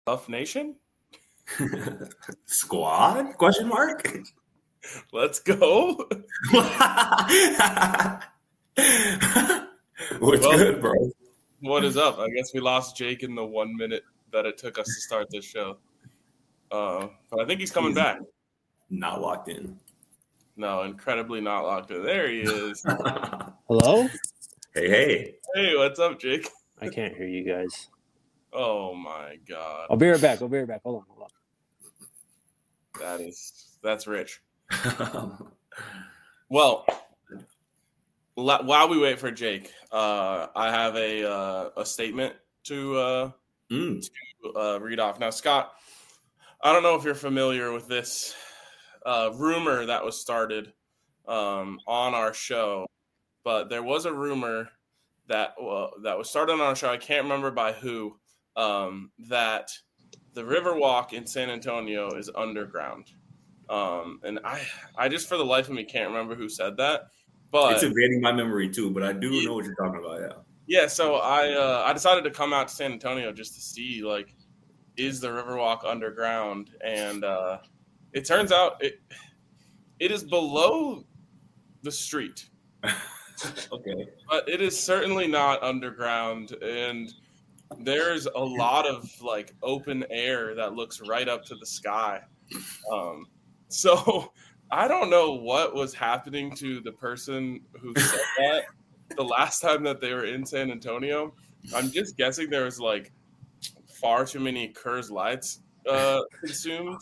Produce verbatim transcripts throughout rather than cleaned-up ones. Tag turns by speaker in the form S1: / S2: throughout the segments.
S1: Buff Nation?
S2: Squad? Question mark?
S1: Let's go.
S2: What's
S1: Well,
S2: good, bro?
S1: What is up? I guess we lost Jake in the one minute that it took us to start this show. Uh, but I think he's coming
S2: He's
S1: back.
S2: Not locked in.
S1: No, incredibly not locked in. There he is.
S3: Hello?
S2: Hey, hey.
S1: Hey, what's up, Jake?
S3: I can't hear you guys.
S1: Oh my god.
S3: I'll be right back. I'll be right back. Hold on, hold on.
S1: That is that's rich. Well, while we wait for Jake, uh, I have a uh, a statement to uh,
S2: mm.
S1: to uh, read off. Now, Scott, I don't know if you're familiar with this uh, rumor that was started um, on our show, but there was a rumor that uh, that was started on our show. I can't remember by who. Um, that the Riverwalk in San Antonio is underground. Um, and I, I just for the life of me can't remember who said that. But
S2: it's evading my memory too, but I do yeah. know what you're talking about, yeah.
S1: Yeah, so I uh, I decided to come out to San Antonio just to see, like, is the Riverwalk underground? And uh, it turns out it it is below the street.
S2: Okay.
S1: But it is certainly not underground, and there's a lot of like open air that looks right up to the sky. Um, so I don't know what was happening to the person who said that the last time that they were in San Antonio. I'm just guessing there was like far too many Coors Lights uh, consumed.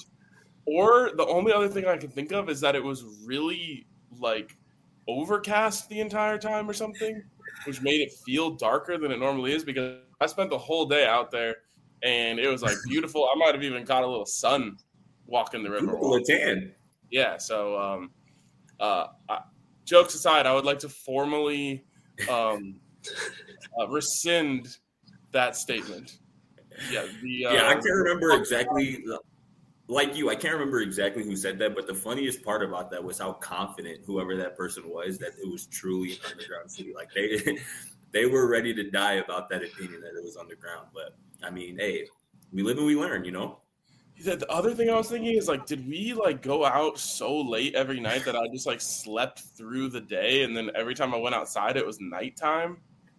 S1: Or the only other thing I can think of is that it was really like overcast the entire time or something, which made it feel darker than it normally is, because I spent the whole day out there and it was like beautiful. I might have even caught a little sun walking the river.
S2: Beautiful tan.
S1: Yeah. So, um, uh, I, jokes aside, I would like to formally um, uh, rescind that statement. Yeah. The, uh,
S2: yeah, I can't remember exactly. Like you, I can't remember exactly who said that, but the funniest part about that was how confident whoever that person was that it was truly an underground city. Like they, they were ready to die about that opinion that it was underground. But I mean, hey, we live and we learn, you know.
S1: The other thing I was thinking is like, did we like go out so late every night that I just like slept through the day, and then every time I went outside, it was nighttime?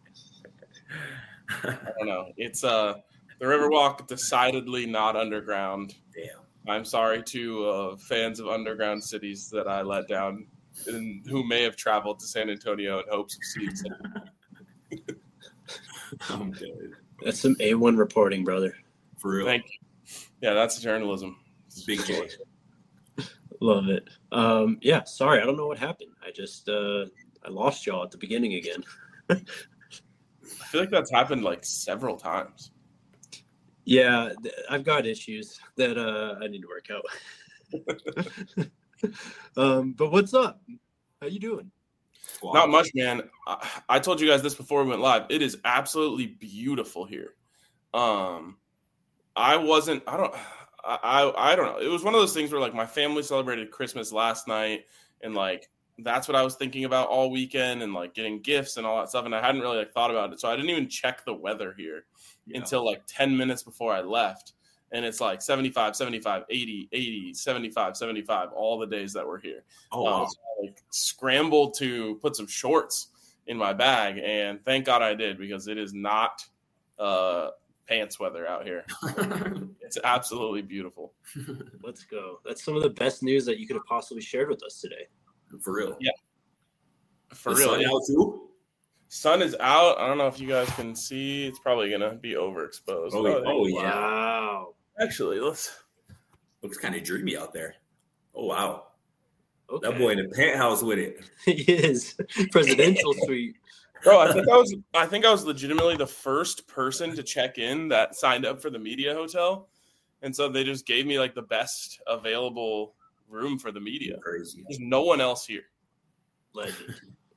S1: I don't know. It's uh, the Riverwalk decidedly not underground.
S2: Damn.
S1: I'm sorry to uh, fans of underground cities that I let down, and who may have traveled to San Antonio in hopes of seeing something.
S2: I'm dead.
S3: That's some A one reporting, brother.
S2: For real.
S1: Thank you. Yeah, that's journalism.
S2: Big J.
S3: Love it. Um, yeah, sorry, I don't know what happened. I just uh, I lost y'all at the beginning again.
S1: I feel like that's happened like several times.
S3: Yeah, I've got issues that uh, I need to work out. um, but what's up? How you doing?
S1: Wow. Not much, man. I, I told you guys this before we went live. It is absolutely beautiful here. Um, I wasn't. I don't. I I don't know. It was one of those things where like my family celebrated Christmas last night, and like that's what I was thinking about all weekend, and like getting gifts and all that stuff. And I hadn't really like thought about it, so I didn't even check the weather here. Yeah. Until like ten minutes before I left. And it's like seventy-five, seventy-five, eighty, eighty, seventy-five, seventy-five, all the days that we're here.
S2: Oh, wow.
S1: Um, so I like, scrambled to put some shorts in my bag. And thank God I did, because it is not uh, pants weather out here. It's absolutely beautiful.
S3: Let's go. That's some of the best news that you could have possibly shared with us today.
S2: For real.
S1: Yeah. For
S2: the
S1: real.
S2: Sun
S1: yeah.
S2: out too?
S1: Sun is out. I don't know if you guys can see. It's probably going to be overexposed.
S2: Oh, oh, oh yeah.
S3: Wow.
S1: Actually, let's.
S2: Looks kind of dreamy out there. Oh, wow.
S3: Okay.
S2: That boy in the penthouse with it.
S3: He is. Presidential suite.
S1: Bro, I think I was I think I was legitimately the first person to check in that signed up for the media hotel. And so they just gave me like the best available room for the media.
S2: Crazy.
S1: There's no one else here.
S3: Legend.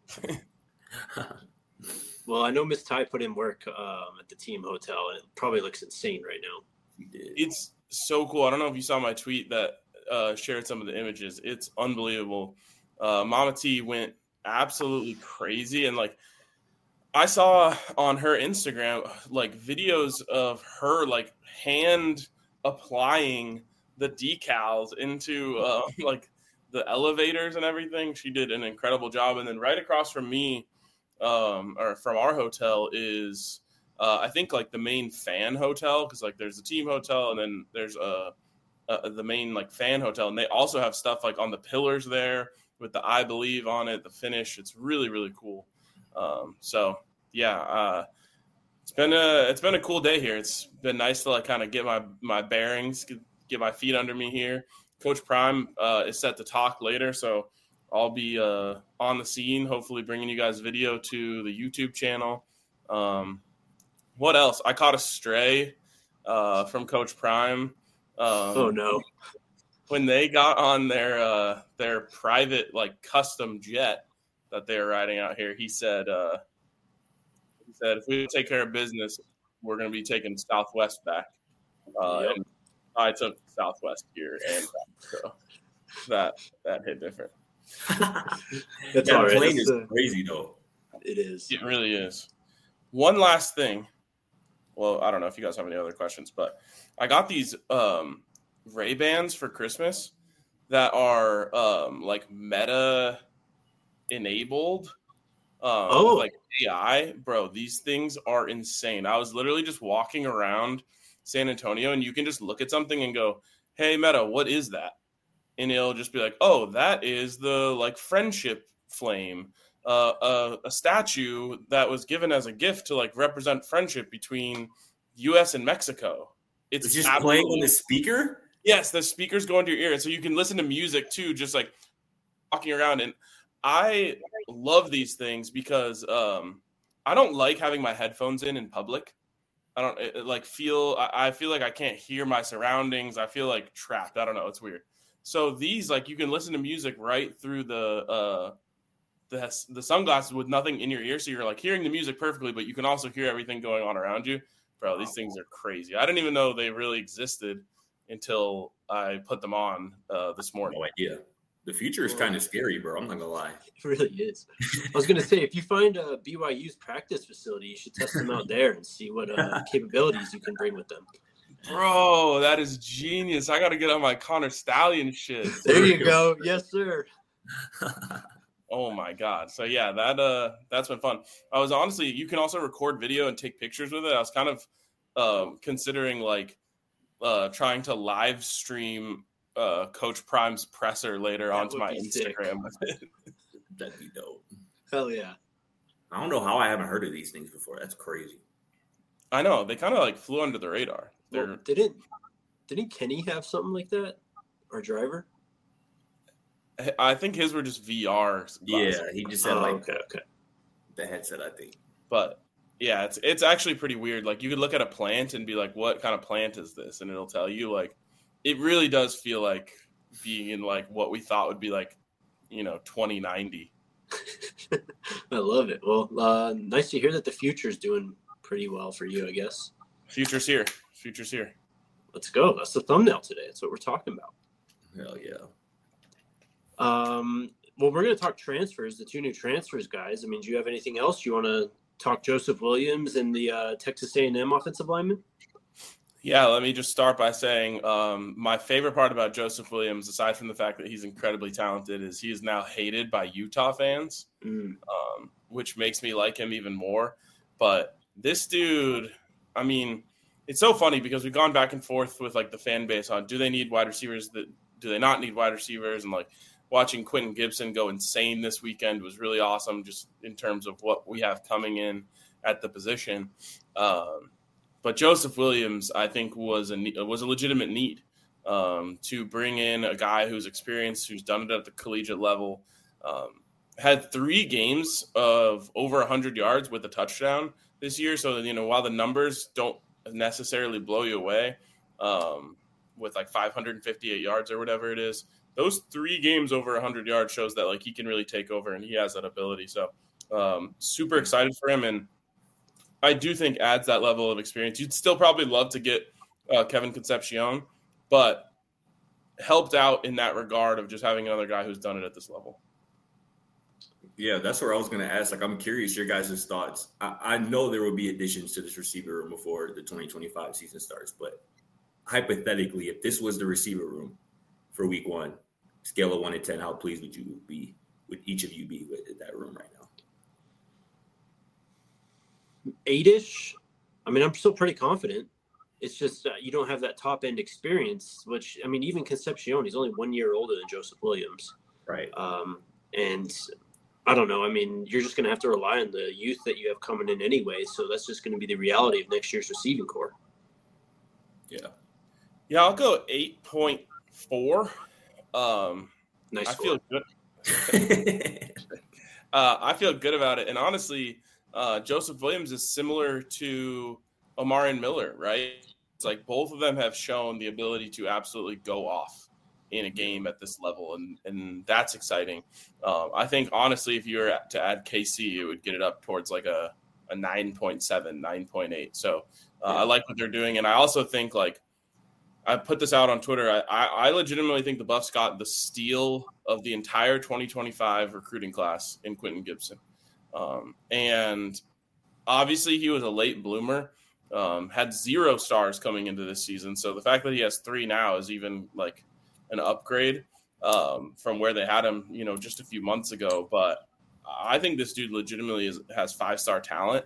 S3: Well, I know Miss Ty put in work um, at the team hotel, and it probably looks insane right now.
S1: It's so cool. I don't know if you saw my tweet that uh, shared some of the images. It's unbelievable. Uh, Mama T went absolutely crazy, and like I saw on her Instagram like videos of her like hand applying the decals into uh, like the elevators and everything. She did an incredible job. And then right across from me, um, or from our hotel is uh, I think like the main fan hotel, because like there's the team hotel and then there's a, a the main like fan hotel, and they also have stuff like on the pillars there with the I Believe on it, the finish. It's really really cool. Um, so yeah, uh, it's been a it's been a cool day here. It's been nice to like kind of get my my bearings, get, get my feet under me here. Coach Prime uh, is set to talk later, so I'll be uh, on the scene, hopefully bringing you guys video to the YouTube channel. Um, what else? I caught a stray uh, from Coach Prime. Um,
S3: oh no!
S1: When they got on their uh, their private like custom jet that they were riding out here, he said uh, he said if we don't take care of business, we're going to be taking Southwest back. Uh,
S3: yep.
S1: And I took Southwest here, and so that that hit different.
S3: That's
S2: that
S3: all right.
S2: plane
S3: That's
S2: is
S3: a,
S2: crazy though.
S3: it is.
S1: It really is. One last thing. Well, I don't know if you guys have any other questions, but I got these um, Ray-Bans for Christmas that are um, like Meta enabled. Um,
S3: oh,
S1: like A I, bro. These things are insane. I was literally just walking around San Antonio, and you can just look at something and go, "Hey, Meta, what is that?" And it'll just be like, "Oh, that is the like friendship flame, uh, uh, a statue that was given as a gift to like represent friendship between U S and Mexico." It's,
S2: It's just playing on the speaker.
S1: Yes, the speakers go into your ear, and so you can listen to music too, just like walking around. And I love these things because um, I don't like having my headphones in in public. I don't it, it, like feel. I, I feel like I can't hear my surroundings. I feel like trapped. I don't know. It's weird. So these, like, you can listen to music right through the uh, the the sunglasses with nothing in your ear, so you're like hearing the music perfectly, but you can also hear everything going on around you. Bro, these things are crazy. I didn't even know they really existed until I put them on uh, this morning.
S2: No idea. The future is kind of scary, bro. I'm not gonna lie.
S3: It really is. I was gonna say, if you find a B Y U's practice facility, you should test them out there and see what uh, capabilities you can bring with them.
S1: Bro, that is genius. I got to get on my Connor Stallion shit.
S3: There you go. Yes, sir.
S1: Oh my God. So yeah, that uh that's been fun. I was honestly, you can also record video and take pictures with it. I was kind of um considering like uh trying to live stream uh Coach Prime's presser later
S3: That
S1: onto
S3: would
S1: my
S3: be
S1: Instagram with it.
S2: That'd be dope.
S3: Hell yeah.
S2: I don't know how I haven't heard of these things before. That's crazy.
S1: I know, they kind of like flew under the radar. They're
S3: Well, didn't didn't Kenny have something like that? Or Driver?
S1: I think his were just V R glasses.
S2: Yeah, he just had
S3: Oh,
S2: like
S3: okay, okay.
S2: the headset, I think.
S1: But yeah, it's it's actually pretty weird. Like you could look at a plant and be like, what kind of plant is this? And it'll tell you. Like it really does feel like being in like what we thought would be like, you know, twenty ninety.
S3: I love it. Well, uh, nice to hear that the future's doing pretty well for you, I guess.
S1: Future's here. Future's here.
S3: Let's go. That's the thumbnail today. That's what we're talking about.
S2: Hell yeah.
S3: Um, well, we're going to talk transfers, the two new transfers, guys. I mean, do you have anything else? You want to talk Joseph Williams and the uh, Texas A and M offensive lineman?
S1: Yeah, let me just start by saying um, my favorite part about Joseph Williams, aside from the fact that he's incredibly talented, is he is now hated by Utah fans,
S3: Mm.
S1: um, which makes me like him even more. But this dude, I mean, it's so funny because we've gone back and forth with like the fan base on do they need wide receivers, that do they not need wide receivers, and like watching Quentin Gibson go insane this weekend was really awesome, just in terms of what we have coming in at the position. Um, But Joseph Williams, I think, was a was a legitimate need um, to bring in a guy who's experienced, who's done it at the collegiate level. Um, had three games of over one hundred yards with a touchdown this year. So, you know, while the numbers don't necessarily blow you away um, with like five hundred fifty-eight yards or whatever it is, those three games over one hundred yards shows that like he can really take over and he has that ability. So um, super excited for him. And I do think adds that level of experience. You'd still probably love to get uh, Kevin Concepcion, but helped out in that regard of just having another guy who's done it at this level.
S2: Yeah, that's where I was going to ask. Like, I'm curious your guys' thoughts. I, I know there will be additions to this receiver room before the twenty twenty-five season starts, but hypothetically, if this was the receiver room for week one, scale of one to ten, how pleased would you be, would each of you be with that room right now?
S3: Eight-ish. I mean, I'm still pretty confident. It's just uh, you don't have that top-end experience, which, I mean, even Concepcion, he's only one year older than Joseph Williams.
S2: Right.
S3: Um, and I don't know. I mean, you're just going to have to rely on the youth that you have coming in anyway. So that's just going to be the reality of next year's receiving core.
S2: Yeah.
S1: Yeah, I'll go eight point four. Um,
S3: nice.
S1: I feel good. uh, I feel good about it. And honestly, uh, Joseph Williams is similar to Omarion Miller, right? It's like both of them have shown the ability to absolutely go off in a game at this level, and and that's exciting. Um, I think, honestly, if you were to add K C, it would get it up towards like a, a nine point seven, nine point eight. So uh, yeah. I like what they're doing, and I also think, like, I put this out on Twitter, I, I, I legitimately think the Buffs got the steal of the entire twenty twenty-five recruiting class in Quentin Gibson. Um, and obviously he was a late bloomer. Um, had zero stars coming into this season. So the fact that he has three now is even like an upgrade um, from where they had him, you know, just a few months ago. But I think this dude legitimately is, has five-star talent,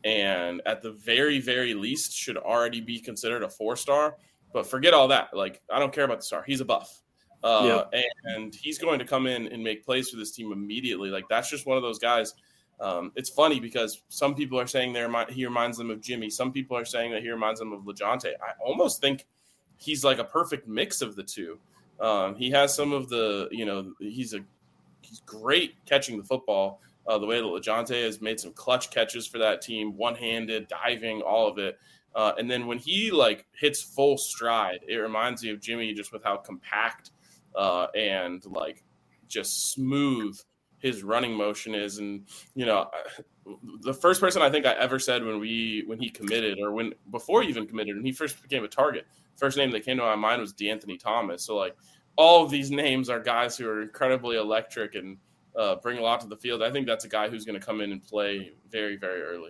S1: and at the very, very least should already be considered a four-star. But forget all that. Like, I don't care about the star. He's a Buff. Uh, yeah. And he's going to come in and make plays for this team immediately. Like, that's just one of those guys. Um, it's funny because some people are saying they're, he reminds them of Jimmy. Some people are saying that he reminds them of LeJounte. I almost think he's like a perfect mix of the two. Um, he has some of the, you know, he's a he's great catching the football. Uh, the way that LeJounte has made some clutch catches for that team, one-handed, diving, all of it. Uh, and then when he like hits full stride, it reminds me of Jimmy just with how compact uh, and like just smooth his running motion is. And, you know, the first person I think I ever said when we, when he committed or when, before he even committed, and he first became a target, first name that came to my mind was DeAnthony Thomas. So like all of these names are guys who are incredibly electric and uh, bring a lot to the field. I think that's a guy who's going to come in and play very, very early.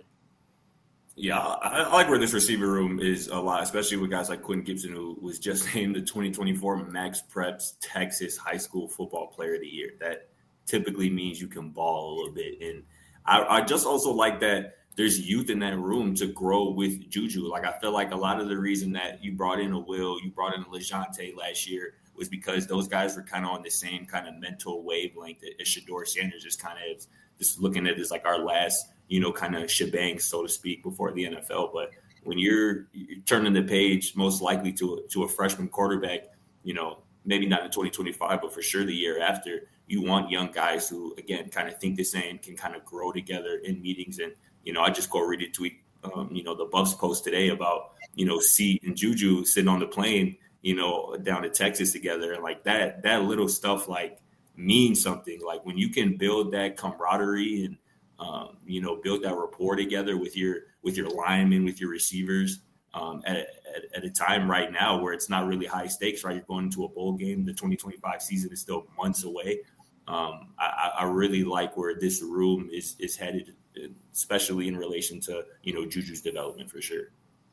S2: Yeah, I, I like where this receiver room is a lot, especially with guys like Quentin Gibson, who was just named the twenty twenty-four Max Preps Texas High School Football Player of the Year. That typically means you can ball a little bit. And I, I just also like that there's youth in that room to grow with Juju. Like, I feel like a lot of the reason that you brought in a Will, you brought in a LeJounte last year was because those guys were kind of on the same kind of mental wavelength as Shedeur Sanders, just kind of just looking at it as like our last, you know, kind of shebang, so to speak, before the N F L. But when you're, you're turning the page, most likely to a, to a freshman quarterback, you know, maybe not in twenty twenty-five, but for sure the year after, you want young guys who, again, kind of think the same, can kind of grow together in meetings. And, you know, I just go read a tweet, um, you know, the Buffs post today about, you know, C and Juju sitting on the plane, you know, down to Texas together. And like that, that little stuff like means something. Like when you can build that camaraderie and, um, you know, build that rapport together with your, with your linemen, with your receivers, um, at, at, at a time right now where it's not really high stakes, right? You're going into a bowl game. The twenty twenty-five season is still months away. Um, I, I really like where this room is, is headed, especially in relation to, you know, Juju's development for sure.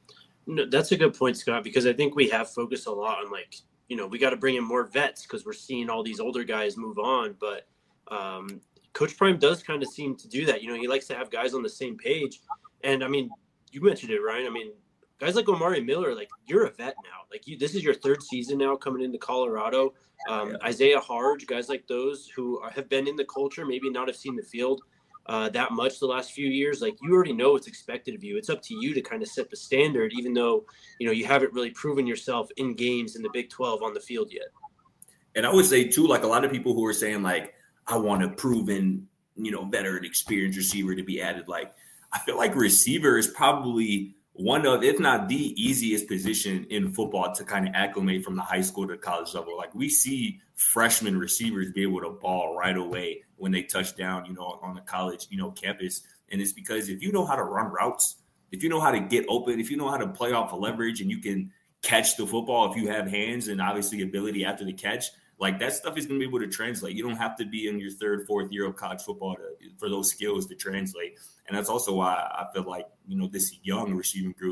S3: No, that's a good point, Scott, because I think we have focused a lot on like, you know, we got to bring in more vets because we're seeing all these older guys move on. But um, Coach Prime does kind of seem to do that. You know, he likes to have guys on the same page. And I mean, you mentioned it, Ryan. I mean, guys like Omarion Miller, like you're a vet now. Like you, this is your third season now coming into Colorado. Um, yeah. Isaiah Harge, guys like those who are, have been in the culture, maybe not have seen the field uh, that much the last few years. Like you already know what's expected of you. It's up to you to kind of set the standard, even though, you know, you haven't really proven yourself in games in the Big twelve on the field yet.
S2: And I would say too, like a lot of people who are saying like, I want a proven, you know, veteran experienced receiver to be added. Like, I feel like receiver is probably one of, if not the easiest position in football to kind of acclimate from the high school to college level. Like we see freshman receivers be able to ball right away when they touch down, you know, on the college, you know, campus. And it's because if you know how to run routes, if you know how to get open, if you know how to play off of leverage and you can catch the football, if you have hands and obviously ability after the catch, like that stuff is going to be able to translate. You don't have to be in your third, fourth year of college football to, for those skills to translate. And that's also why I feel like, you know, this young receiving group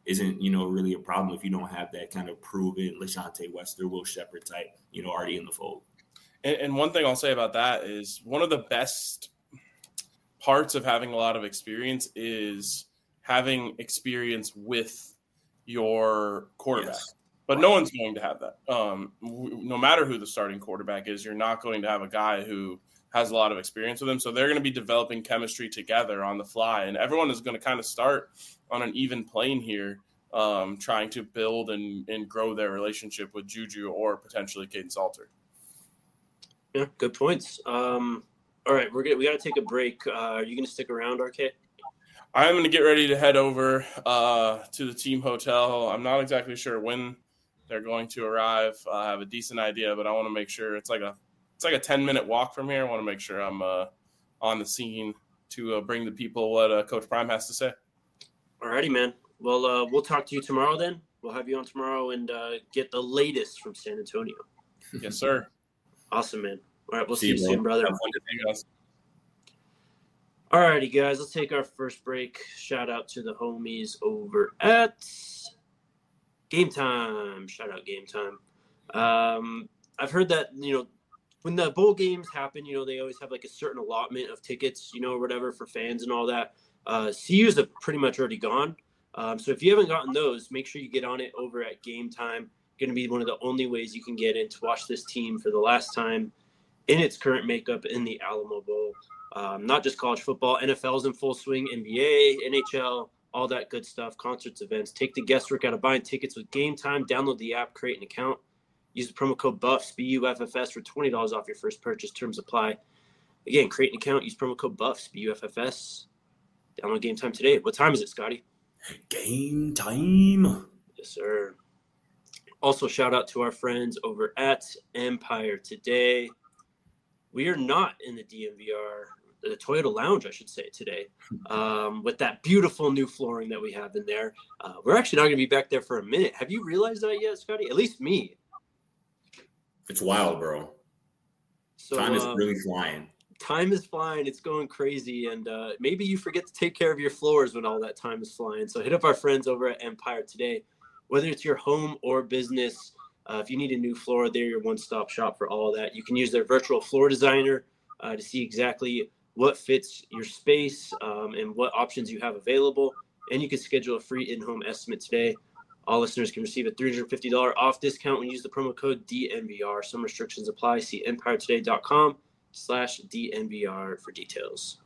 S2: isn't, you know, really a problem if you don't have that kind of proven LaJohntay Wester, Will Shepherd type, you know, already in the fold.
S1: And, and one thing I'll say about that is one of the best parts of having a lot of experience is having experience with your quarterback.
S2: Yes.
S1: But no one's going to have that. Um, w- no matter who the starting quarterback is, you're not going to have a guy who has a lot of experience with him. So they're going to be developing chemistry together on the fly. And everyone is going to kind of start on an even plane here, um, trying to build and, and grow their relationship with Juju or potentially Kaidon Salter.
S3: Yeah, good points. Um, all right, we're gonna, we got to take a break. Uh, are you going to stick around, R K?
S1: I'm going to get ready to head over uh, to the team hotel. I'm not exactly sure when they're going to arrive. I have a decent idea, but I want to make sure it's like a it's like a ten minute walk from here. I want to make sure I'm uh, on the scene to uh, bring the people what uh, Coach Prime has to say.
S3: All righty, man. Well, uh, we'll talk to you tomorrow then. We'll have you on tomorrow and uh, get the latest from San Antonio.
S1: Yes, sir.
S3: Awesome, man. All right, we'll see,
S2: See
S3: you
S2: you,
S3: soon, brother.
S1: Have fun to see you guys.
S3: All righty, guys. Let's take our first break. Shout out to the homies over at Game Time. Shout out Game Time. Um, I've heard that, you know, when the bowl games happen, you know, they always have like a certain allotment of tickets, you know, or whatever for fans and all that. Uh, C U's have pretty much already gone. Um, so if you haven't gotten those, make sure you get on it over at Game Time. Going to be one of the only ways you can get in to watch this team for the last time in its current makeup in the Alamo Bowl. Um, not just college football, N F L's in full swing, N B A, N H L, all that good stuff, concerts, events. Take the guesswork out of buying tickets with Game Time. Download the app, create an account. Use the promo code BUFFS, B U F F S, for twenty dollars off your first purchase. Terms apply. Again, create an account. Use promo code BUFFS, B U F F S. Download Game Time today. What time is it, Scotty?
S2: Game time.
S3: Yes, sir. Also, shout out to our friends over at Empire Today. We are not in the D M V R, the Toyota Lounge, I should say, today, um, with that beautiful new flooring that we have in there. Uh, we're actually not going to be back there for a minute. Have you realized that yet, Scotty? At least me.
S2: It's wild, bro.
S3: So,
S2: Time is
S3: uh,
S2: really flying.
S3: Time is flying. It's going crazy. And uh, maybe you forget to take care of your floors when all that time is flying. So hit up our friends over at Empire Today. Whether it's your home or business, uh, if you need a new floor, they're your one-stop shop for all of that. You can use their virtual floor designer uh, to see exactly what fits your space um, and what options you have available. And you can schedule a free in-home estimate today. All listeners can receive a three hundred fifty dollars off discount when you use the promo code D N V R. Some restrictions apply. See empiretoday.com slash DNVR for details.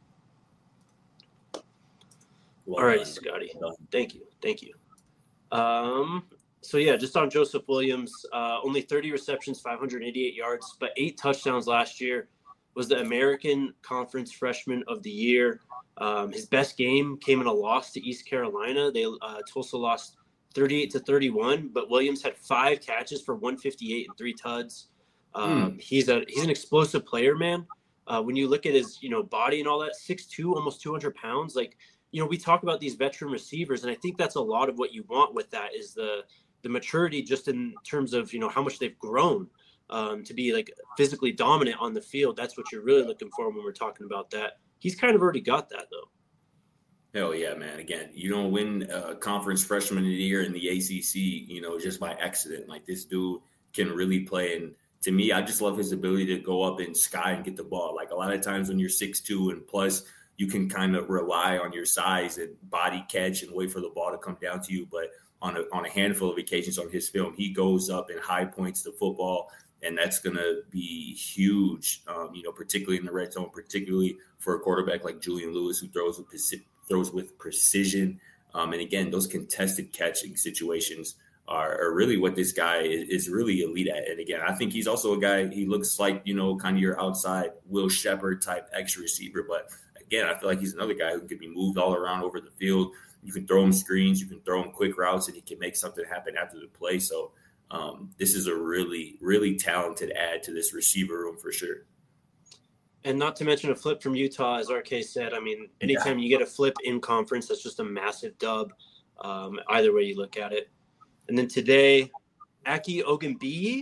S2: Well
S3: All right,
S2: done.
S3: Scotty.
S2: Well done.
S3: Thank you. Thank you. Um, so, yeah, just on Joseph Williams, uh, only thirty receptions, five hundred eighty-eight yards, but eight touchdowns last year. Was the American Conference Freshman of the Year. Um, his best game came in a loss to East Carolina. They uh, Tulsa lost thirty-eight to thirty-one, but Williams had five catches for one hundred fifty-eight and three tuds. Um, mm. He's a he's an explosive player, man. Uh, when you look at his you know body and all that, six two, almost two hundred pounds. Like you know, we talk about these veteran receivers, and I think that's a lot of what you want with that is the the maturity, just in terms of you know how much they've grown um, to be like physically dominant on the field. That's what you're really looking for when we're talking about that. He's kind of already got that though.
S2: Hell yeah, man. Again, you don't win a conference freshman of the year in the A C C, you know, just by accident. Like this dude can really play. And to me, I just love his ability to go up in sky and get the ball. Like a lot of times when you're six two and plus, you can kind of rely on your size and body catch and wait for the ball to come down to you. But on a, on a handful of occasions on his film, he goes up and high points the football. And that's going to be huge, um, you know, particularly in the red zone, particularly for a quarterback like Julian Lewis, who throws with throws with precision. Um, and again, those contested catching situations are, are really what this guy is, is really elite at. And again, I think he's also a guy, he looks like, you know, kind of your outside Will Shepherd type extra receiver. But again, I feel like he's another guy who can be moved all around over the field. You can throw him screens, you can throw him quick routes, and he can make something happen after the play. So um, this is a really, really talented add to this receiver room for sure.
S3: And not to mention a flip from Utah, as R K said. I mean, anytime yeah. you get a flip in conference, that's just a massive dub, um, either way you look at it. And then today, Aki Ogunbiyi.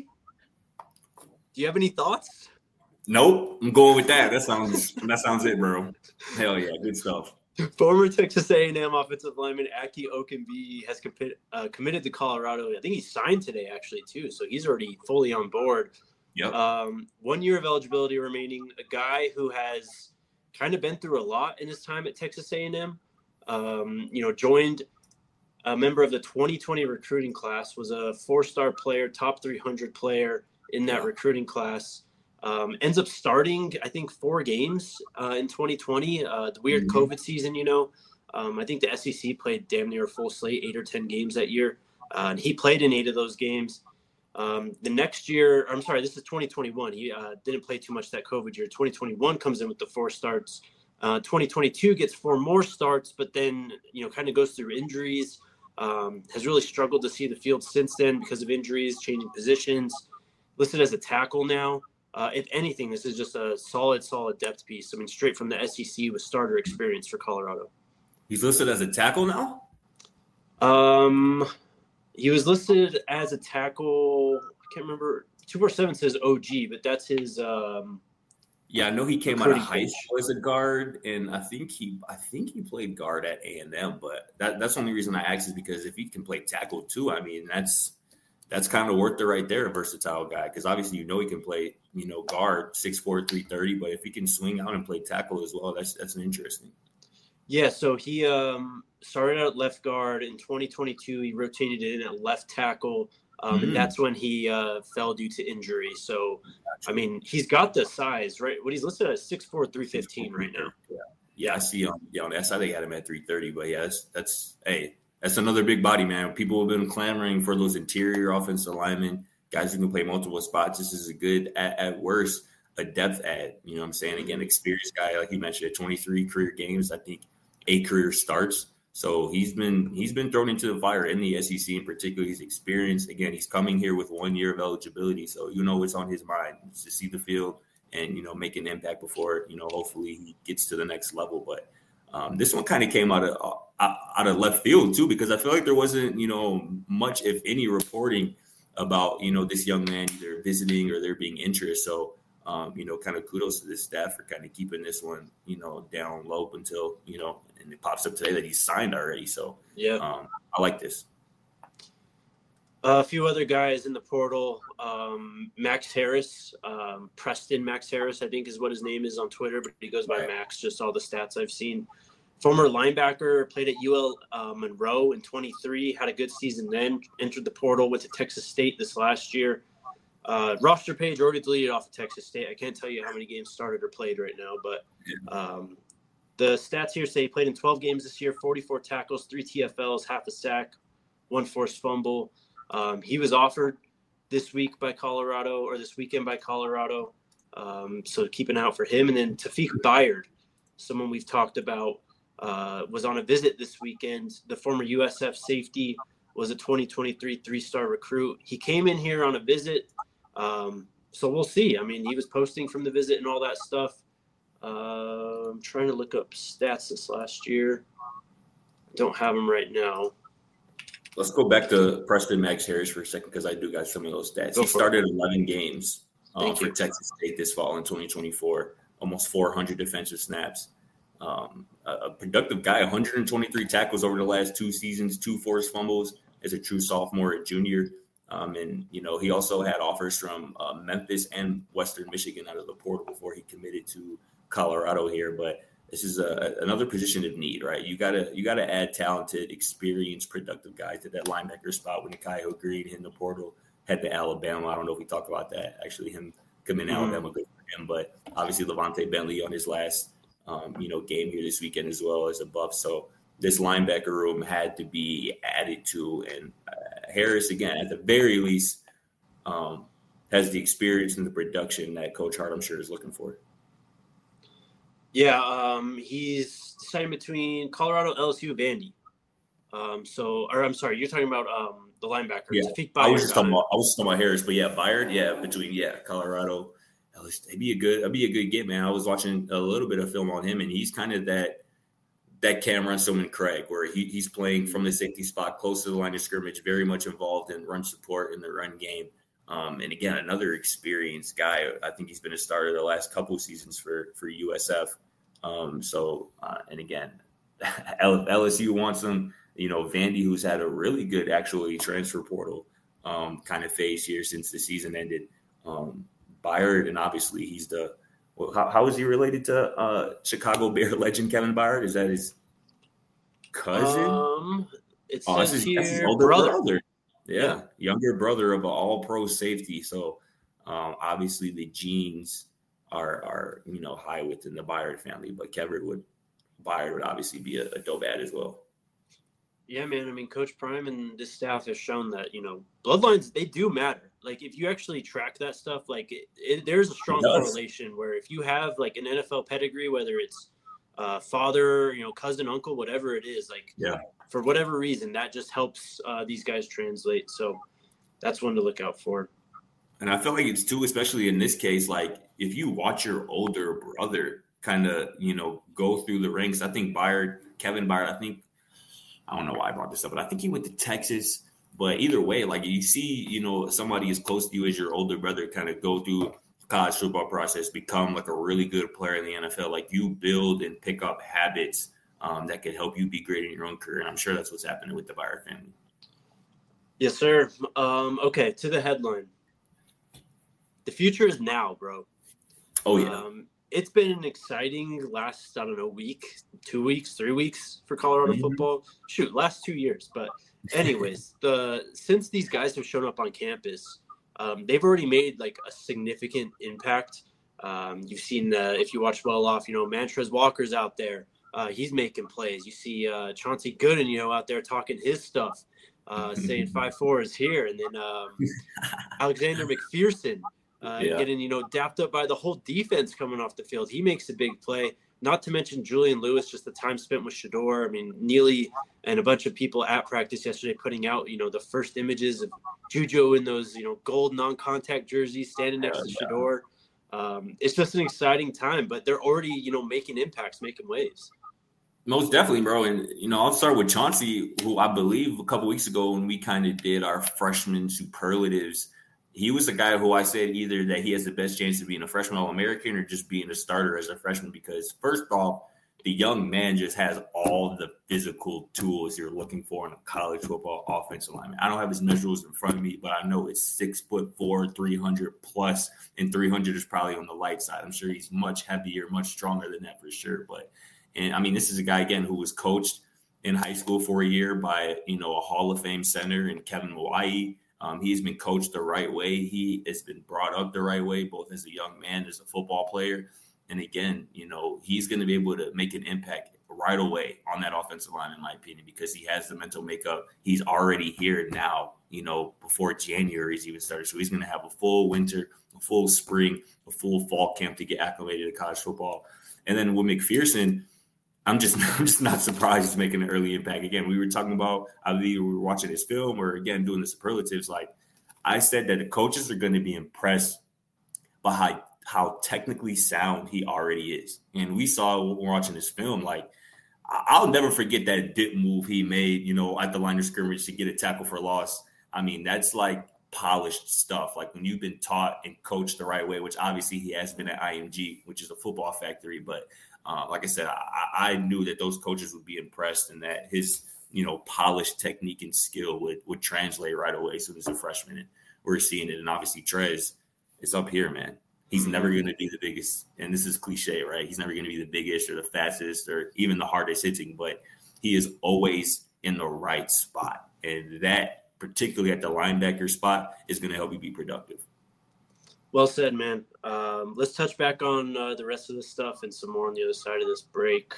S3: Do you have any thoughts?
S2: Nope. I'm going with that. That sounds that sounds it, bro. Hell yeah. Good stuff.
S3: Former Texas A and M offensive lineman Aki Okenbi has compi- uh, committed to Colorado. I think he signed today, actually, too. So he's already fully on board.
S2: Yep.
S3: Um, one year of eligibility remaining. A guy who has kind of been through a lot in his time at Texas A and M. Um, you know, joined a member of the twenty twenty recruiting class, was a four-star player, top three hundred player in that
S2: Yeah.
S3: recruiting class. Um, ends up starting, I think, four games uh, in twenty twenty. Uh, the weird
S2: Mm-hmm.
S3: COVID season, you know. Um, I think the S E C played damn near a full slate, eight or ten games that year. Uh, and he played in eight of those games. Um, the next year, I'm sorry, this is twenty twenty-one. He uh, didn't play too much that COVID year. twenty twenty-one comes in with the four starts. Uh, twenty twenty-two gets four more starts, but then, you know, kind of goes through injuries. Um, has really struggled to see the field since then because of injuries, changing positions. Listed as a tackle now. Uh, if anything, this is just a solid, solid depth piece. I mean, straight from the S E C with starter experience for Colorado.
S2: He's listed as a tackle now?
S3: Um, he was listed as a tackle. I can't remember. two forty-seven says O G, but that's his. Um,
S2: Yeah, I know he came out of
S3: recruiting
S2: high
S3: page.
S2: school as a guard, and I think he, I think he played guard at A and M. But that, that's the only reason I asked is because if he can play tackle too, I mean, that's that's kind of worth it right there, a versatile guy. Because obviously, you know, he can play, you know, guard six four, three thirty. But if he can swing out and play tackle as well, that's that's interesting.
S3: Yeah, so he um, started out at left guard in twenty twenty-two. He rotated in at left tackle, um,
S2: Mm.
S3: and that's when he uh, fell due to injury. So, I mean, he's got the size, right? What he's listed as six four, three fifteen right now.
S2: Yeah, yeah, I see. Um, yeah, on that side they had him at three thirty. But yeah, that's that's hey, that's another big body, man. People have been clamoring for those interior offensive linemen, guys who can play multiple spots. This is a good, at, at worst, a depth add. You know what I'm saying? Again, experienced guy, like you mentioned, at twenty-three career games, I think eight career starts. So he's been he's been thrown into the fire in the S E C in particular. He's experienced. Again, he's coming here with one year of eligibility. So you know it's on his mind to see the field and, you know, make an impact before, you know, hopefully he gets to the next level. But um, this one kind of came out of uh, out of left field too, because I feel like there wasn't, you know, much, if any, reporting about, you know, this young man either visiting or there being interest. So, um, you know, kind of kudos to this staff for kind of keeping this one, you know, down low until, you know, and it pops up today that he's signed already. So,
S3: Yeah.
S2: um, I like this.
S3: Uh, a few other guys in the portal. Um, Max Harris, um, Preston Max Harris, I think is what his name is on Twitter, but he goes by
S2: Right.
S3: Max, just all the stats I've seen. Former linebacker, played at U L uh, Monroe in twenty-three, had a good season then, entered the portal, went to Texas State this last year. Uh, roster page already deleted off of Texas State. I can't tell you how many games started or played right now, but um, the stats here say he played in twelve games this year, forty-four tackles, three T F Ls, half a sack, one forced fumble. Um, he was offered this week by Colorado, or this weekend by Colorado. Um, so keep an eye out for him. And then Tafik Bayard, someone we've talked about, uh, was on a visit this weekend. The former U S F safety was a twenty twenty-three three-star recruit. He came in here on a visit. Um, so we'll see. I mean, he was posting from the visit and all that stuff. Uh, I'm trying to look up stats this last year. I don't have them right now.
S2: Let's go back to Preston Max Harris for a second because I do got some of those stats.
S3: Go
S2: He
S3: for
S2: started eleven games uh,
S3: Thank
S2: for
S3: you.
S2: Texas State this fall in twenty twenty-four, almost four hundred defensive snaps. Um, a, a productive guy, one hundred twenty-three tackles over the last two seasons, two forced fumbles as a true sophomore and junior. Um, and, you know, he also had offers from uh, Memphis and Western Michigan out of the portal before he committed to Colorado here. But this is a, another position of need, right? You gotta you gotta add talented, experienced, productive guys to that linebacker spot. When Kyle Green in the portal head to Alabama, I don't know if we talk about that. Actually, him coming to
S3: Mm-hmm.
S2: Alabama, good for him. But obviously, Levante Bentley on his last um, you know game here this weekend as well as a buff. So this linebacker room had to be added to, and uh, Harris again at the very least um, has the experience and the production that Coach Hart, I'm sure, is looking for.
S3: Yeah, um, he's deciding between Colorado, L S U, Vandy. Um, so, or I'm sorry, you're talking about um, the linebacker.
S2: Yeah,
S3: Tafik
S2: I was
S3: Bayard
S2: just talking
S3: on it.
S2: about I was just talking about Harris, but yeah, Bayard, yeah, between yeah, Colorado, L S U, it'd be a good, it'd be a good get, man. I was watching a little bit of film on him, and he's kind of that that Cameron Stillman Craig, where he, he's playing from the safety spot, close to the line of scrimmage, very much involved in run support in the run game. Um, and again, another experienced guy. I think he's been a starter the last couple of seasons for for U S F. Um, so, uh, and again, L S U wants him. You know, Vandy, who's had a really good actually transfer portal um, kind of phase here since the season ended. Um, Byard, and obviously he's the well, how, how is he related to uh, Chicago Bear legend Kevin Byard? Is that his cousin?
S3: Um, it
S2: oh,
S3: says
S2: that's his,
S3: here
S2: that's his older
S3: brother.
S2: brother. Yeah, younger brother of an all-pro safety. So um, obviously the genes are are you know high within the Byard family, but Kevin would Byard would obviously be a, a dope ad as well.
S3: Yeah, man. I mean, Coach Prime and this staff has shown that, you know, bloodlines, they do matter. Like, if you actually track that stuff, like, it, it, there's a strong correlation where if you have, like, an N F L pedigree, whether it's uh, father, you know, cousin, uncle, whatever it is, like,
S2: yeah,
S3: for whatever reason, that just helps uh, these guys translate. So that's one to look out for.
S2: And I feel like it's, too, especially in this case, like, if you watch your older brother kind of, you know, go through the ranks, I think Byard, Kevin Byard, I think, I don't know why I brought this up, but I think he went to Texas. But either way, like you see, you know, somebody as close to you as your older brother kind of go through college football process, become like a really good player in the N F L. Like you build and pick up habits um, that could help you be great in your own career. And I'm sure that's what's happening with the Byard family.
S3: Yes, sir. Um, okay, to the headline. The future is now, bro.
S2: Oh, yeah.
S3: Um, it's been an exciting last, I don't know, week, two weeks, three weeks for Colorado mm-hmm. football. Shoot, last two years. But anyways, the since these guys have shown up on campus, um, they've already made like a significant impact. Um, you've seen, uh, if you watch well off, you know, Mantrez Walker's out there. Uh, he's making plays. You see uh, Chauncey Gooden, you know, out there talking his stuff, uh, saying five four is here. And then um, Alexander McPherson. Uh, yeah. Getting, you know, dapped up by the whole defense coming off the field. He makes a big play. Not to mention Julian Lewis, just the time spent with Shedeur. I mean, Neely and a bunch of people at practice yesterday putting out, you know, the first images of Juju in those, you know, gold non-contact jerseys standing next to Shedeur. Um, it's just an exciting time, but they're already, you know, making impacts, making waves.
S2: Most definitely, bro. And, you know, I'll start with Chauncey, who I believe a couple weeks ago when we kind of did our freshman superlatives, he was the guy who I said either that he has the best chance of being a freshman All-American or just being a starter as a freshman because, first off, the young man just has all the physical tools you're looking for in a college football offensive lineman. I don't have his measurables in front of me, but I know it's six foot four, three hundred plus, and three hundred is probably on the light side. I'm sure he's much heavier, much stronger than that for sure. But, and I mean, this is a guy, again, who was coached in high school for a year by, you know, a Hall of Fame center in Kevin Mawai. Um, he's been coached the right way. He has been brought up the right way, both as a young man, as a football player. And again, you know, he's going to be able to make an impact right away on that offensive line, in my opinion, because he has the mental makeup. He's already here now, you know, before January is even started. So he's going to have a full winter, a full spring, a full fall camp to get acclimated to college football. And then with McPherson, I'm just, I'm just not surprised he's making an early impact. Again, we were talking about, either we were watching his film or, again, doing the superlatives. Like I said that the coaches are going to be impressed by how, how technically sound he already is. And we saw when we were watching this film, like, I'll never forget that dip move he made, you know, at the line of scrimmage to get a tackle for loss. I mean, that's like polished stuff. Like when you've been taught and coached the right way, which obviously he has been at I M G, which is a football factory, but Uh, like I said, I, I knew that those coaches would be impressed and that his, you know, polished technique and skill would would translate right away as soon as a freshman. And we're seeing it. And obviously, Trez is up here, man. He's never going to be the biggest. And this is cliche, right? He's never going to be the biggest or the fastest or even the hardest hitting, but he is always in the right spot. And that, particularly at the linebacker spot, is going to help you be productive.
S3: Well said, man. Um, let's touch back on uh, the rest of this stuff and some more on the other side of this break.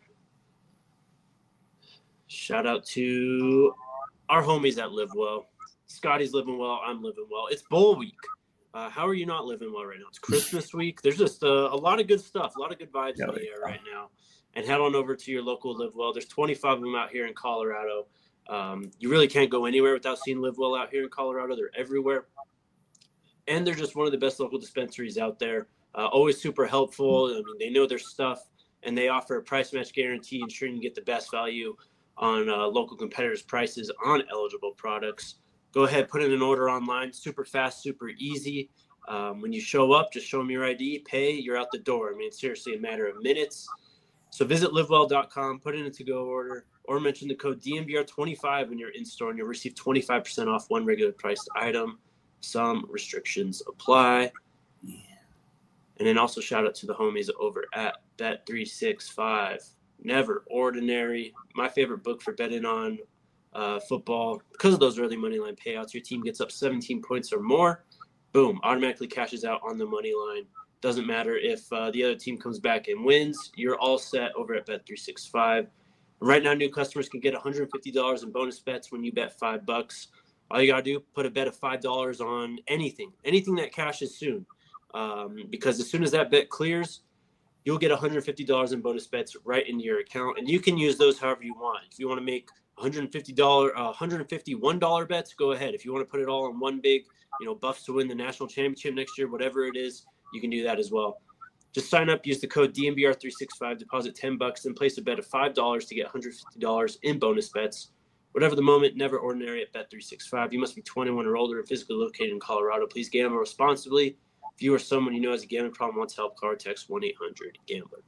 S3: Shout out to our homies at Live Well. Scotty's living well. I'm living well. It's bowl week. Uh, how are you not living well right now? It's Christmas week. There's just uh, a lot of good stuff, a lot of good vibes in the air right now. And head on over to your local Live Well. There's twenty-five of them out here in Colorado. Um, you really can't go anywhere without seeing Live Well out here in Colorado. They're everywhere. And they're just one of the best local dispensaries out there. Uh, always super helpful. I mean, they know their stuff, and they offer a price match guarantee, ensuring you get the best value on uh, local competitors' prices on eligible products. Go ahead, put in an order online. Super fast, super easy. Um, when you show up, just show them your I D, pay, you're out the door. I mean, it's seriously a matter of minutes. So visit livewell dot com, put in a to-go order, or mention the code D N V R twenty-five when you're in store, and you'll receive twenty-five percent off one regular priced item. Some restrictions apply. Yeah. And then also shout out to the homies over at Bet three sixty-five. Never Ordinary. My favorite book for betting on uh, football. Because of those early money line payouts, your team gets up seventeen points or more. Boom, automatically cashes out on the money line. Doesn't matter if uh, the other team comes back and wins. You're all set over at Bet three sixty-five. Right now, new customers can get one hundred fifty dollars in bonus bets when you bet five bucks. All you got to do, put a bet of five dollars on anything, anything that cashes soon. Um, because as soon as that bet clears, you'll get one hundred fifty dollars in bonus bets right into your account. And you can use those however you want. If you want to make one hundred fifty dollars, uh, one hundred fifty-one dollars bets, go ahead. If you want to put it all in one big, you know, Buffs to win the national championship next year, whatever it is, you can do that as well. Just sign up, use the code D N V R three sixty-five, deposit ten bucks, then place a bet of five dollars to get one hundred fifty dollars in bonus bets. Whatever the moment, never ordinary at Bet three sixty-five. You must be twenty-one or older and physically located in Colorado. Please gamble responsibly. If you or someone you know has a gambling problem wants help, call or text one eight hundred gambler.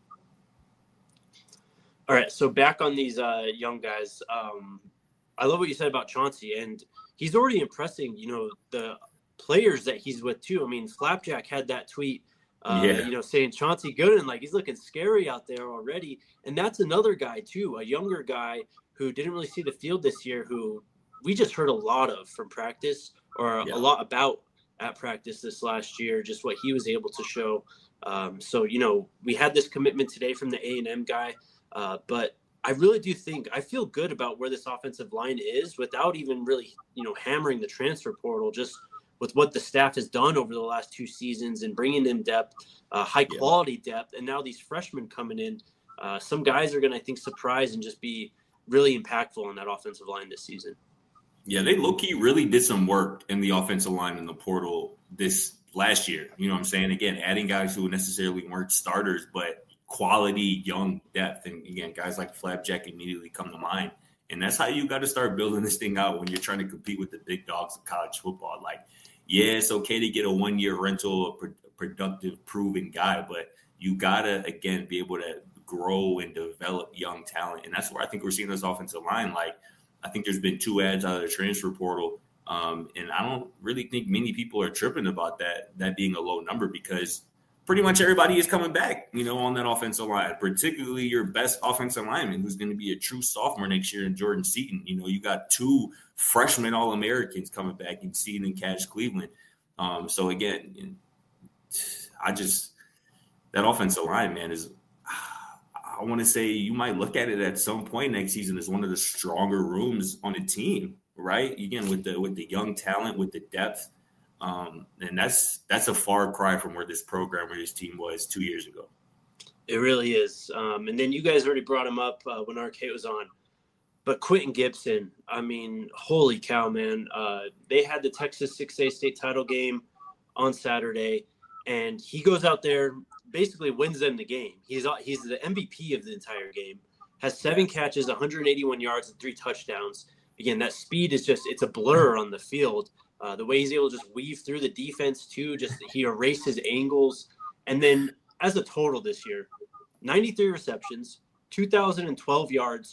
S3: All right, so back on these uh, young guys. Um, I love what you said about Chauncey, and he's already impressing, you know, the players that he's with too. I mean, Flapjack had that tweet, uh, yeah. you know, saying Chauncey Gooden, like he's looking scary out there already. And that's another guy too, a younger guy who didn't really see the field this year, who we just heard a lot of from practice or yeah. a lot about at practice this last year, just what he was able to show. Um, so, you know, we had this commitment today from the A and M guy, uh, but I really do think I feel good about where this offensive line is without even really, you know, hammering the transfer portal, just with what the staff has done over the last two seasons and bringing in depth, uh, high quality yeah. depth. And now these freshmen coming in, uh, some guys are going to, I think, surprise and just be really impactful on that offensive line this season.
S2: Yeah, they low-key really did some work in the offensive line in the portal this last year. You know what I'm saying? Again, adding guys who necessarily weren't starters, but quality, young depth. And, again, guys like Flapjack immediately come to mind. And that's how you got to start building this thing out when you're trying to compete with the big dogs of college football. Like, yeah, it's okay to get a one-year rental, a pro- productive, proven guy, but you got to, again, be able to grow and develop young talent. And that's where I think we're seeing this offensive line. Like, I think there's been two ads out of the transfer portal, um, and I don't really think many people are tripping about that, that being a low number, because pretty much everybody is coming back, you know, on that offensive line, particularly your best offensive lineman, who's going to be a true sophomore next year in Jordan Seaton. You know, you got two freshman All-Americans coming back in Seaton and Cash Cleveland. Um, so, again, I just – that offensive line, man, is – I want to say you might look at it at some point next season as one of the stronger rooms on the team, right? Again, with the with the young talent, with the depth, um, and that's that's a far cry from where this program or this team was two years ago.
S3: It really is. Um, and then you guys already brought him up uh, when Arcade was on, but Quentin Gibson, I mean, holy cow, man! Uh, they had the Texas six A state title game on Saturday, and he goes out there. Basically wins them the game. He's he's the M V P of the entire game. Has seven catches, one hundred eighty-one yards, and three touchdowns. Again, that speed is just, it's a blur on the field. Uh, the way he's able to just weave through the defense too, just he erases angles. And then as a total this year, ninety-three receptions, two thousand twelve yards,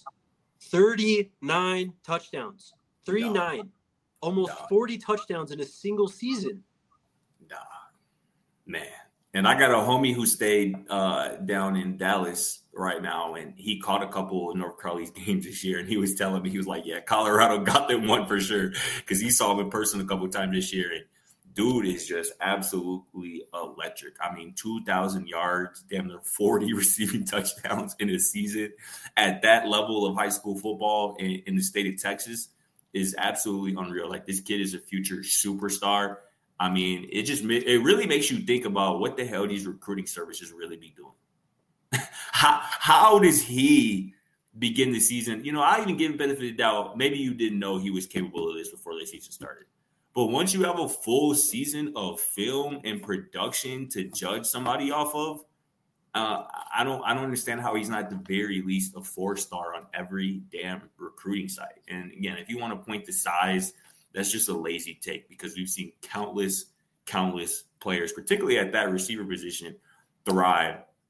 S3: thirty-nine touchdowns, thirty-nine, no. almost no. forty touchdowns in a single season.
S2: Nah, man. And I got a homie who stayed uh, down in Dallas right now, and he caught a couple of North Carolina's games this year. And he was telling me, he was like, yeah, Colorado got them one for sure, because he saw him in person a couple of times this year. And dude is just absolutely electric. I mean, two thousand yards, damn near forty receiving touchdowns in a season at that level of high school football in, in the state of Texas is absolutely unreal. Like, this kid is a future superstar. I mean, it just it really makes you think about what the hell these recruiting services really be doing. how how does he begin the season? You know, I even give him benefit of the doubt. Maybe you didn't know he was capable of this before the season started. But once you have a full season of film and production to judge somebody off of, uh, I don't I don't understand how he's not at the very least a four star on every damn recruiting site. And again, if you want to point to size, that's just a lazy take, because we've seen countless, countless players, particularly at that receiver position, thrive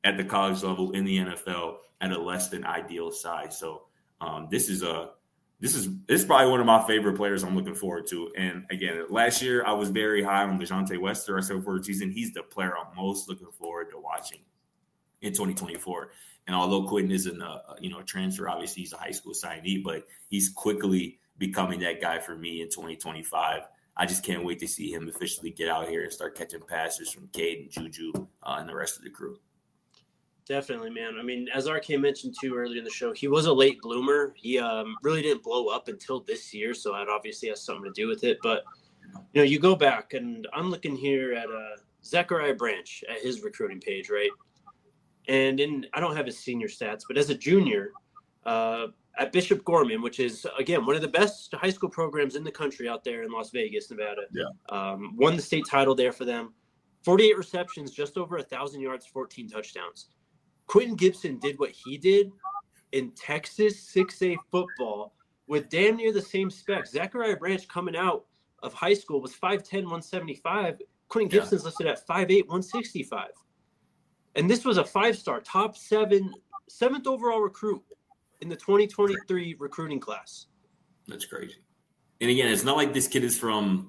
S2: at the college level in the N F L at a less than ideal size. So um, this is a this is this is probably one of my favorite players I'm looking forward to. And again, last year I was very high on DeJounte Wester. I said for the season, he's the player I'm most looking forward to watching in twenty twenty-four. And although Quentin isn't a you know a transfer, obviously he's a high school signee, but he's quickly becoming that guy for me in twenty twenty-five. I just can't wait to see him officially get out here and start catching passes from Cade and Juju uh, and the rest of the crew.
S3: Definitely, man. I mean, as R K mentioned too earlier in the show, he was a late bloomer. He um, really didn't blow up until this year, so that obviously has something to do with it. But you know, you go back, and I'm looking here at uh, Zachariah Branch at his recruiting page, right? And in I don't have his senior stats, but as a junior uh, at Bishop Gorman, which is again one of the best high school programs in the country out there in Las Vegas, Nevada,
S2: yeah,
S3: um, won the state title there for them. forty-eight receptions, just over a thousand yards, fourteen touchdowns. Quentin Gibson did what he did in Texas six A football with damn near the same specs. Zachariah Branch coming out of high school was five ten, one seventy-five. Quentin
S2: Yeah.
S3: Gibson's listed at five eight, one sixty-five. And this was a five-star, top seven, seventh overall recruit in the twenty twenty-three recruiting class.
S2: That's crazy. And again, it's not like this kid is from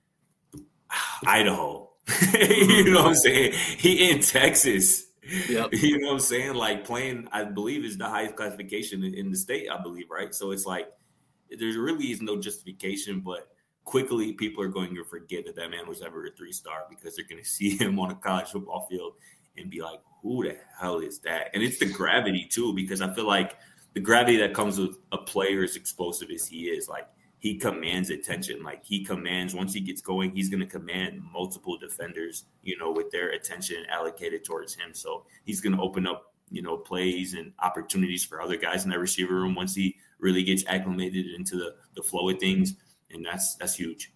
S2: Idaho. You know what I'm saying? He in Texas.
S3: Yep.
S2: You know what I'm saying? Like playing, I believe, is the highest classification in, in the state, I believe, right? So it's like there really is no justification, but quickly people are going to forget that that man was ever a three-star because they're going to see him on a college football field and be like, who the hell is that? And it's the gravity, too, because I feel like the gravity that comes with a player as explosive as he is, like, he commands attention. Like, he commands, once he gets going, he's going to command multiple defenders, you know, with their attention allocated towards him. So he's going to open up, you know, plays and opportunities for other guys in that receiver room once he really gets acclimated into the, the flow of things. And that's that's huge.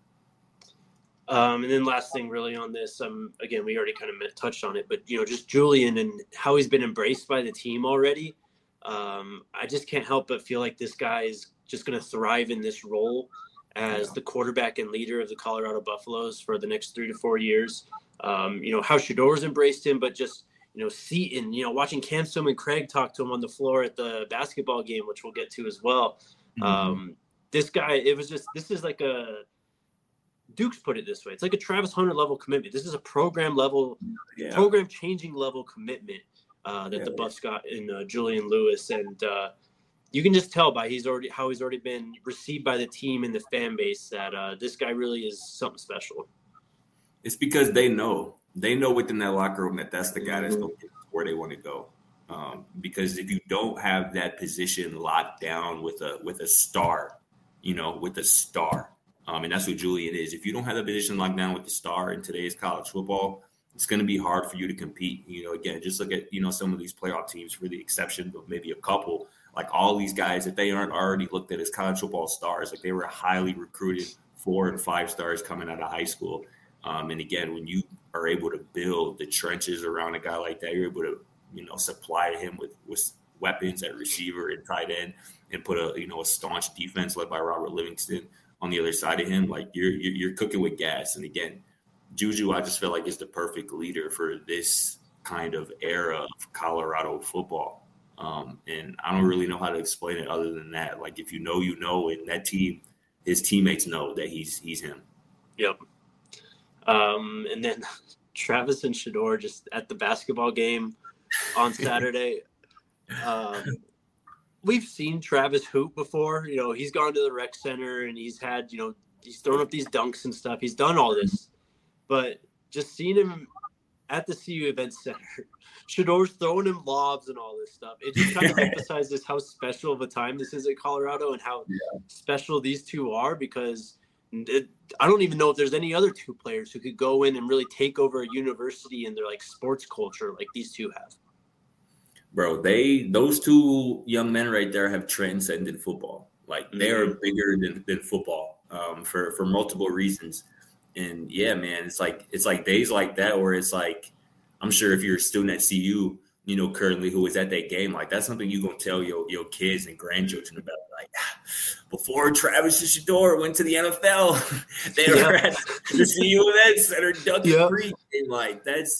S3: Um, and then last thing really on this, um, again, we already kind of touched on it, but, you know, just Julian and how he's been embraced by the team already. Um, I just can't help but feel like this guy is just going to thrive in this role as the quarterback and leader of the Colorado Buffaloes for the next three to four years. Um, you know, how Shador's embraced him, but just, you know, Seaton, you know, watching Cam Stone and Craig talk to him on the floor at the basketball game, which we'll get to as well. Mm-hmm. Um, this guy, it was just, this is like a, Duke's put it this way. It's like a Travis Hunter level commitment. This is a program level, yeah. program changing level commitment uh, that yeah, the Buffs got in uh, Julian Lewis. And uh, you can just tell by he's already, how he's already been received by the team and the fan base that uh, this guy really is something special.
S2: It's because they know, they know within that locker room that that's the guy that's going to get where they want to go. Um, because if you don't have that position locked down with a, with a star, you know, with a star, Um, and that's what Julian is. If you don't have the position locked down with the star in today's college football, it's going to be hard for you to compete. You know, again, just look at, you know, some of these playoff teams, for the exception of maybe a couple, like all these guys, if they aren't already looked at as college football stars, like they were highly recruited four and five stars coming out of high school. Um, and again, when you are able to build the trenches around a guy like that, you're able to, you know, supply him with, with weapons at receiver and tight end and put a, you know, a staunch defense led by Robert Livingston on the other side of him, like you're, you're you're cooking with gas. And again, Juju, I just feel like is the perfect leader for this kind of era of Colorado football. Um, and I don't really know how to explain it other than that. Like if you know, you know, and that team, his teammates know that he's he's him.
S3: Yep. Um, and then Travis and Shador just at the basketball game on Saturday. um, We've seen Travis hoop before. You know, he's gone to the rec center and he's had, you know, he's thrown up these dunks and stuff. He's done all this. But just seeing him at the C U Event Center, Shador's throwing him lobs and all this stuff. It just kind of emphasizes how special of a time this is at Colorado and how yeah. special these two are, because it, I don't even know if there's any other two players who could go in and really take over a university and their like sports culture like these two have.
S2: Bro, they those two young men right there have transcended football. Like they are bigger than, than football um, for for multiple reasons. And yeah, man, it's like it's like days like that where it's like, I'm sure if you're a student at C U, you know, currently who was at that game, like that's something you gonna tell your your kids and grandchildren about. Like before Travis and Shador went to the N F L, they yeah. were at the C U Event Center dunking yeah. free. And like that's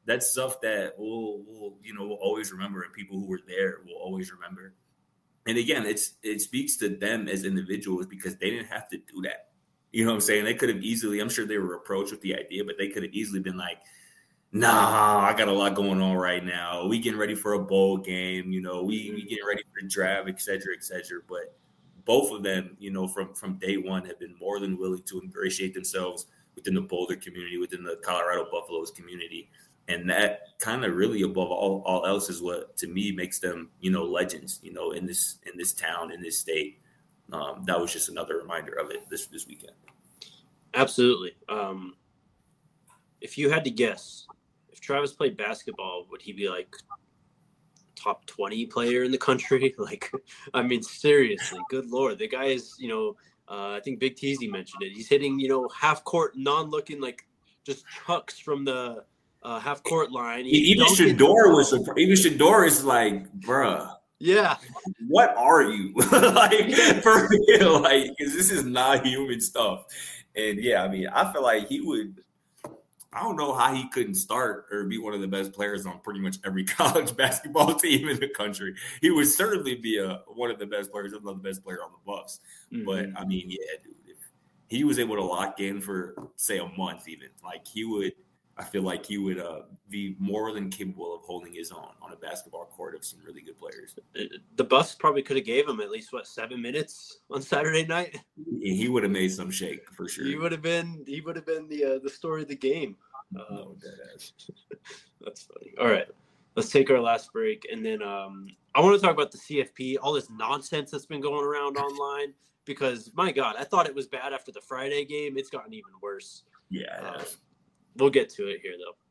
S2: that's stuff that we'll, we'll, you know, we'll always remember, and people who were there will always remember. And again, it's it speaks to them as individuals because they didn't have to do that. You know what I'm saying? They could have easily, I'm sure they were approached with the idea, but they could have easily been like, nah, I got a lot going on right now. We getting ready for a bowl game, you know, we, we getting ready for the draft, et cetera, et cetera. But both of them, you know, from, from day one have been more than willing to ingratiate themselves within the Boulder community, within the Colorado Buffaloes community. And that kind of really above all, all else is what, to me, makes them, you know, legends, you know, in this in this town, in this state. Um, that was just another reminder of it this, this weekend.
S3: Absolutely. Um, if you had to guess, if Travis played basketball, would he be like top twenty player in the country? Like, I mean, seriously, good Lord. The guy is, you know, uh, I think Big Teasy mentioned it. He's hitting, you know, half court, non-looking, like just chucks from the uh, half court line. He
S2: even Shador was, even Shador is like, bruh.
S3: Yeah.
S2: What are you? Like, for real, like, because this is not human stuff. And yeah, I mean, I feel like he would, I don't know how he couldn't start or be one of the best players on pretty much every college basketball team in the country. He would certainly be a, one of the best players, if not the best player on the Buffs. Mm-hmm. But I mean, yeah, dude, if he was able to lock in for, say, a month even, like he would, I feel like he would uh, be more than capable of holding his own on a basketball court of some really good players.
S3: The Buffs probably could have gave him at least, what, seven minutes on Saturday night?
S2: He would have made some shake for sure.
S3: He would have been he would have been the uh, the story of the game. Um,
S2: no, that
S3: that's funny. All right, let's take our last break, and then um, I want to talk about the C F P, all this nonsense that's been going around online. Because my God, I thought it was bad after the Friday game. It's gotten even worse.
S2: Yeah.
S3: Uh, we'll get to it here, though.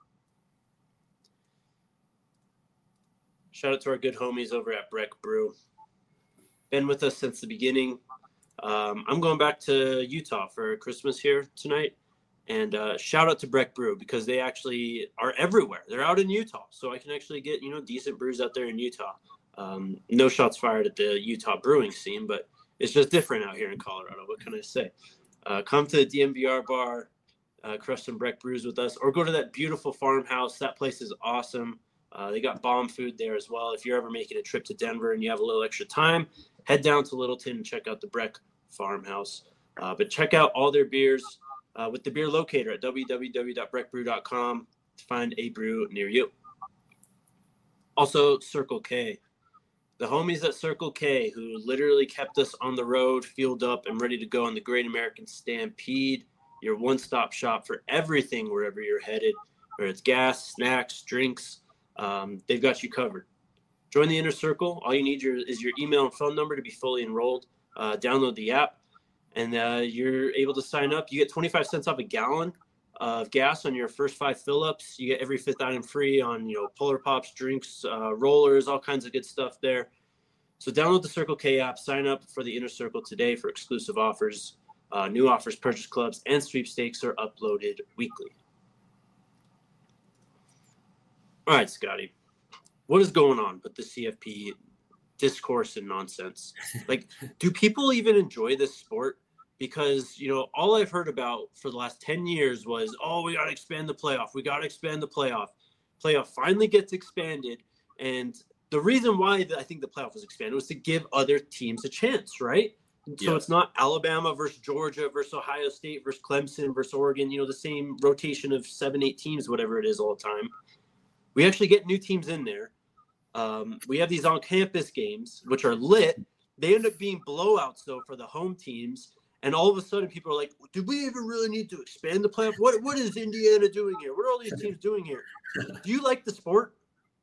S3: Shout out to our good homies over at Breck Brew. Been with us since the beginning. Um, I'm going back to Utah for Christmas here tonight. And uh, shout out to Breck Brew because they actually are everywhere. They're out in Utah. So I can actually get, you know, decent brews out there in Utah. Um, no shots fired at the Utah brewing scene, but it's just different out here in Colorado. What can I say? Uh, come to the D M V R bar, uh, crush some Breck brews with us, or go to that beautiful farmhouse. That place is awesome. Uh, they got bomb food there as well. If you're ever making a trip to Denver and you have a little extra time, head down to Littleton and check out the Breck farmhouse. Uh, but check out all their beers uh, with the beer locator at w w w dot breck brew dot com to find a brew near you. Also, Circle K. The homies at Circle K, who literally kept us on the road, fueled up, and ready to go on the Great American Stampede, your one-stop shop for everything wherever you're headed, whether it's gas, snacks, drinks, um, they've got you covered. Join the Inner Circle. All you need your, is your email and phone number to be fully enrolled. Uh, download the app, and uh, you're able to sign up. You get twenty-five cents off a gallon of gas on your first five fill-ups. You get every fifth item free on, you know, Polar Pops, drinks, uh, rollers, all kinds of good stuff there. So download the Circle K app, sign up for the Inner Circle today for exclusive offers. Uh, new offers, purchase clubs, and sweepstakes are uploaded weekly. All right, Scotty, what is going on with the C F P discourse and nonsense? Like, do people even enjoy this sport? Because, you know, all I've heard about for the last ten years was, oh, we got to expand the playoff. We got to expand the playoff. Playoff finally gets expanded. And the reason why I think the playoff was expanded was to give other teams a chance, right? So yeah. It's not Alabama versus Georgia versus Ohio State versus Clemson versus Oregon, you know, the same rotation of seven, eight teams, whatever it is all the time. We actually get new teams in there. Um, we have these on-campus games, which are lit. They end up being blowouts, though, for the home teams. And all of a sudden, people are like, do we even really need to expand the playoff? What What is Indiana doing here? What are all these teams doing here? Do you like the sport?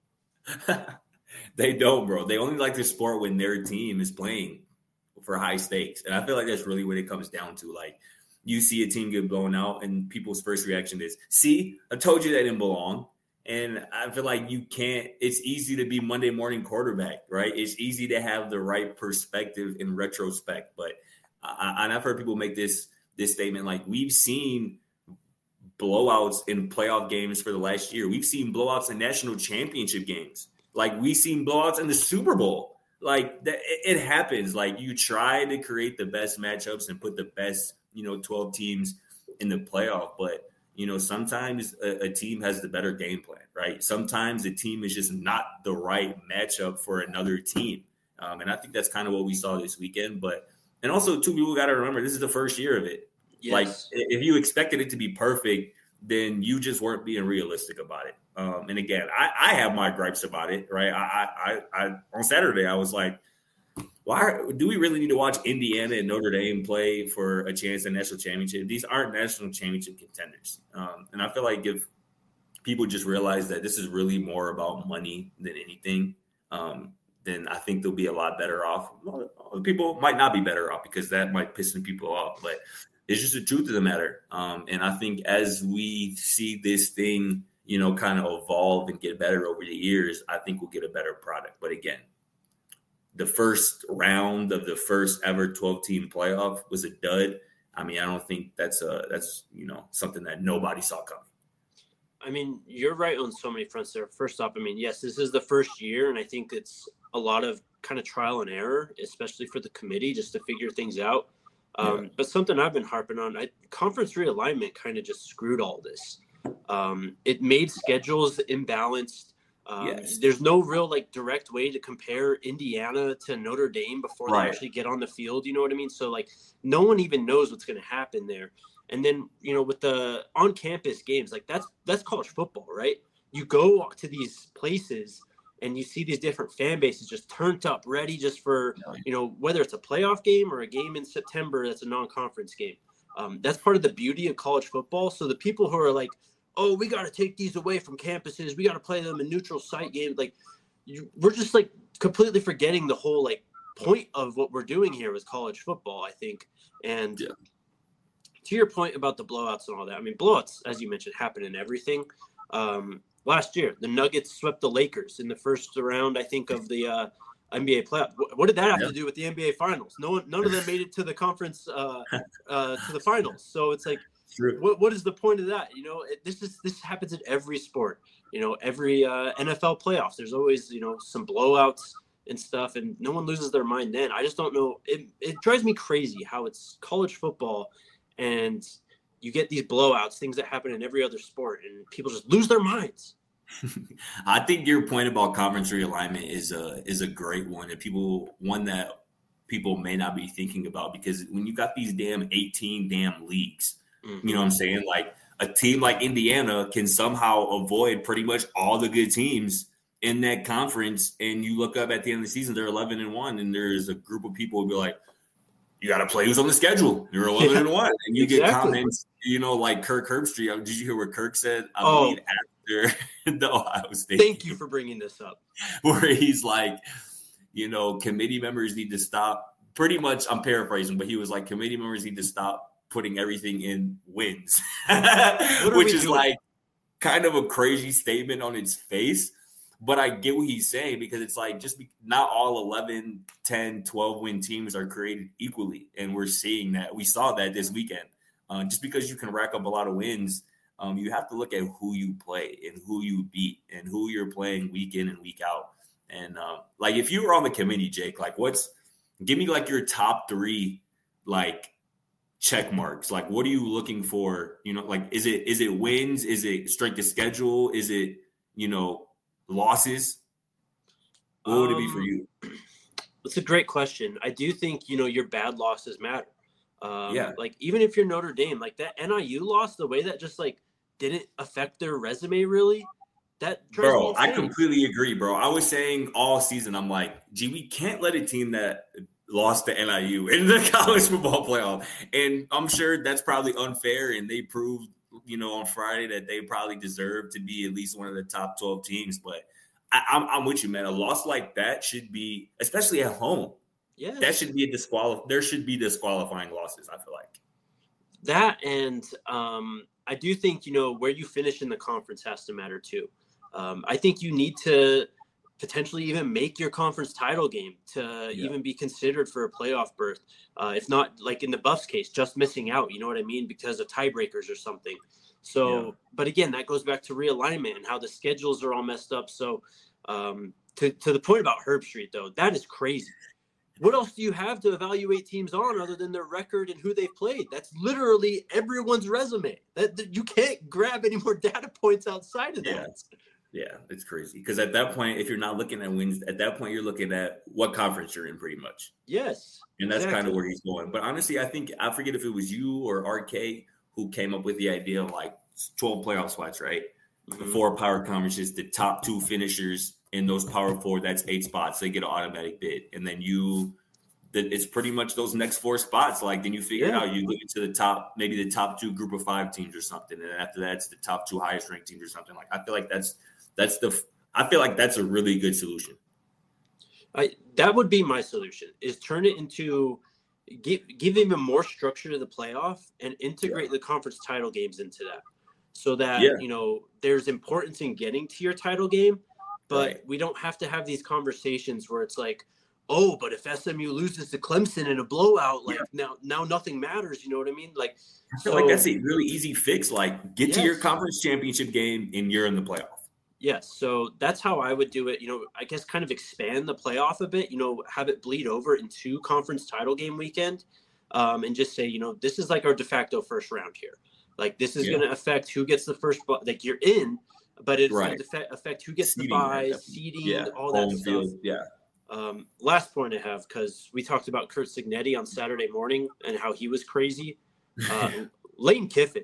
S2: They don't, bro. They only like the sport when their team is playing for high stakes. And I feel like that's really what it comes down to. Like, you see a team get blown out, and people's first reaction is, see, I told you they didn't belong. And I feel like you can't – it's easy to be Monday morning quarterback, right? It's easy to have the right perspective in retrospect, but – I, and I've heard people make this this statement like, we've seen blowouts in playoff games for the last year. We've seen blowouts in national championship games. Like, we've seen blowouts in the Super Bowl. Like, that, it, it happens. Like, you try to create the best matchups and put the best, you know, twelve teams in the playoff. But, you know, sometimes a, a team has the better game plan, right? Sometimes the team is just not the right matchup for another team. Um, and I think that's kind of what we saw this weekend. But and also, too, people got to remember this is the first year of it. Yes. Like, if you expected it to be perfect, then you just weren't being realistic about it. Um, and again, I, I have my gripes about it, right? I, I, I, on Saturday, I was like, why do we really need to watch Indiana and Notre Dame play for a chance at national championship? These aren't national championship contenders. Um, and I feel like if people just realize that this is really more about money than anything, um, then I think they'll be a lot better off. Well, people might not be better off because that might piss some people off, but it's just the truth of the matter. Um, and I think as we see this thing, you know, kind of evolve and get better over the years, I think we'll get a better product. But again, the first round of the first ever twelve-team playoff was a dud. I mean, I don't think that's a that's you know something that nobody saw coming.
S3: I mean, you're right on so many fronts there. First off, I mean, yes, this is the first year, and I think it's a lot of kind of trial and error, especially for the committee, just to figure things out. Um, yeah. But something I've been harping on, I, conference realignment kind of just screwed all this. Um, it made schedules imbalanced. Um, yes. There's no real like direct way to compare Indiana to Notre Dame before right. they actually get on the field. You know what I mean? So like no one even knows what's going to happen there. And then, you know, with the on-campus games, like that's that's college football, right? You go to these places and you see these different fan bases just turned up, ready just for, you know, whether it's a playoff game or a game in September that's a non-conference game. Um, that's part of the beauty of college football. So the people who are like, oh, we got to take these away from campuses, we got to play them in neutral site games, like you, we're just like completely forgetting the whole like point of what we're doing here with college football, I think. And yeah. to your point about the blowouts and all that, I mean, blowouts, as you mentioned, happen in everything. Um, Last year, the Nuggets swept the Lakers in the first round, I think, of the uh, N B A playoff. What did that have yep. to do with the N B A finals? No one, none of them made it to the conference, uh, uh, to the finals. So it's like, what, what is the point of that? You know, it, this is this happens in every sport. You know, every uh, N F L playoffs, there's always you know some blowouts and stuff, and no one loses their mind then. I just don't know. It it drives me crazy how it's college football and you get these blowouts, things that happen in every other sport, and people just lose their minds.
S2: I think your point about conference realignment is a is a great one, and people one that people may not be thinking about because when you got these damn eighteen damn leagues, mm-hmm. you know what I'm saying? Like a team like Indiana can somehow avoid pretty much all the good teams in that conference, and you look up at the end of the season, they're eleven and one, and there's a group of people who be like, you got to play who's on the schedule. You're eleven and one. And you exactly. get comments, you know, like Kirk Herbstreit. Did you hear what Kirk said? I
S3: oh.
S2: believe after the Ohio State.
S3: Thank you for bringing this up.
S2: Where he's like, you know, committee members need to stop. Pretty much, I'm paraphrasing, but he was like, committee members need to stop putting everything in wins. Which is doing? Like kind of a crazy statement on its face. But I get what he's saying because it's like just be, not all eleven, ten, twelve win teams are created equally. And we're seeing that. We saw that this weekend. Uh, just because you can rack up a lot of wins, um, you have to look at who you play and who you beat and who you're playing week in and week out. And uh, like if you were on the committee, Jake, like what's give me like your top three like check marks. Like what are you looking for? You know, like is it is it wins? Is it strength of schedule? Is it, you know, losses? What would um, it be for you?
S3: That's a great question. I do think, you know, your bad losses matter. Um,
S2: yeah.
S3: Like, even if you're Notre Dame, like that N I U loss, the way that just, like, didn't affect their resume really, that drives
S2: Bro,
S3: me insane.
S2: I completely agree, bro. I was saying all season, I'm like, gee, we can't let a team that lost to N I U in the college football playoff. And I'm sure that's probably unfair, and they proved you know, on Friday that they probably deserve to be at least one of the top twelve teams. But I, I'm, I'm with you, man. A loss like that should be, especially at home.
S3: Yeah,
S2: that should be a disqual. There should be disqualifying losses, I feel like.
S3: That and um, I do think, you know, where you finish in the conference has to matter too. Um, I think you need to potentially even make your conference title game to yeah. even be considered for a playoff berth. Uh, if not, like in the Buffs case, just missing out, you know what I mean? Because of tiebreakers or something. So, yeah. but again, that goes back to realignment and how the schedules are all messed up. So um, to, to the point about Herbstreit, though, that is crazy. What else do you have to evaluate teams on other than their record and who they've played? That's literally everyone's resume. That, that you can't grab any more data points outside of that.
S2: Yeah. Yeah, it's crazy. Because at that point, if you're not looking at wins, at that point, you're looking at what conference you're in pretty much.
S3: Yes.
S2: And that's
S3: exactly.
S2: kind of where he's going. But honestly, I think, I forget if it was you or R K who came up with the idea of like twelve playoff spots, right? Mm-hmm. The four power conferences, the top two finishers in those power four, that's eight spots. They get an automatic bid. And then you, that it's pretty much those next four spots. Like, then you figure yeah. out you go into the top, maybe the top two group of five teams or something. And after that, it's the top two highest ranked teams or something. Like, I feel like that's, that's the, I feel like that's a really good solution.
S3: I, that would be my solution, is turn it into, give, give even more structure to the playoff and integrate yeah. the conference title games into that. So that, yeah. you know, there's importance in getting to your title game, but right. we don't have to have these conversations where it's like, oh, but if S M U loses to Clemson in a blowout, like yeah. now, now nothing matters. You know what I mean? Like,
S2: I feel so, like that's a really easy fix. Like, get yes. to your conference championship game and you're in the playoff.
S3: Yes. So that's how I would do it. You know, I guess kind of expand the playoff a bit, you know, have it bleed over into conference title game weekend, um, and just say, you know, this is like our de facto first round here. Like, this is yeah. going to affect who gets the first, like, you're in, but it's right. going to affect who gets seeding, the bye, seeding, yeah. all that Home stuff. Field.
S2: Yeah.
S3: Um, last point I have, because we talked about Curt Cignetti on Saturday morning and how he was crazy. Uh, Lane Kiffin.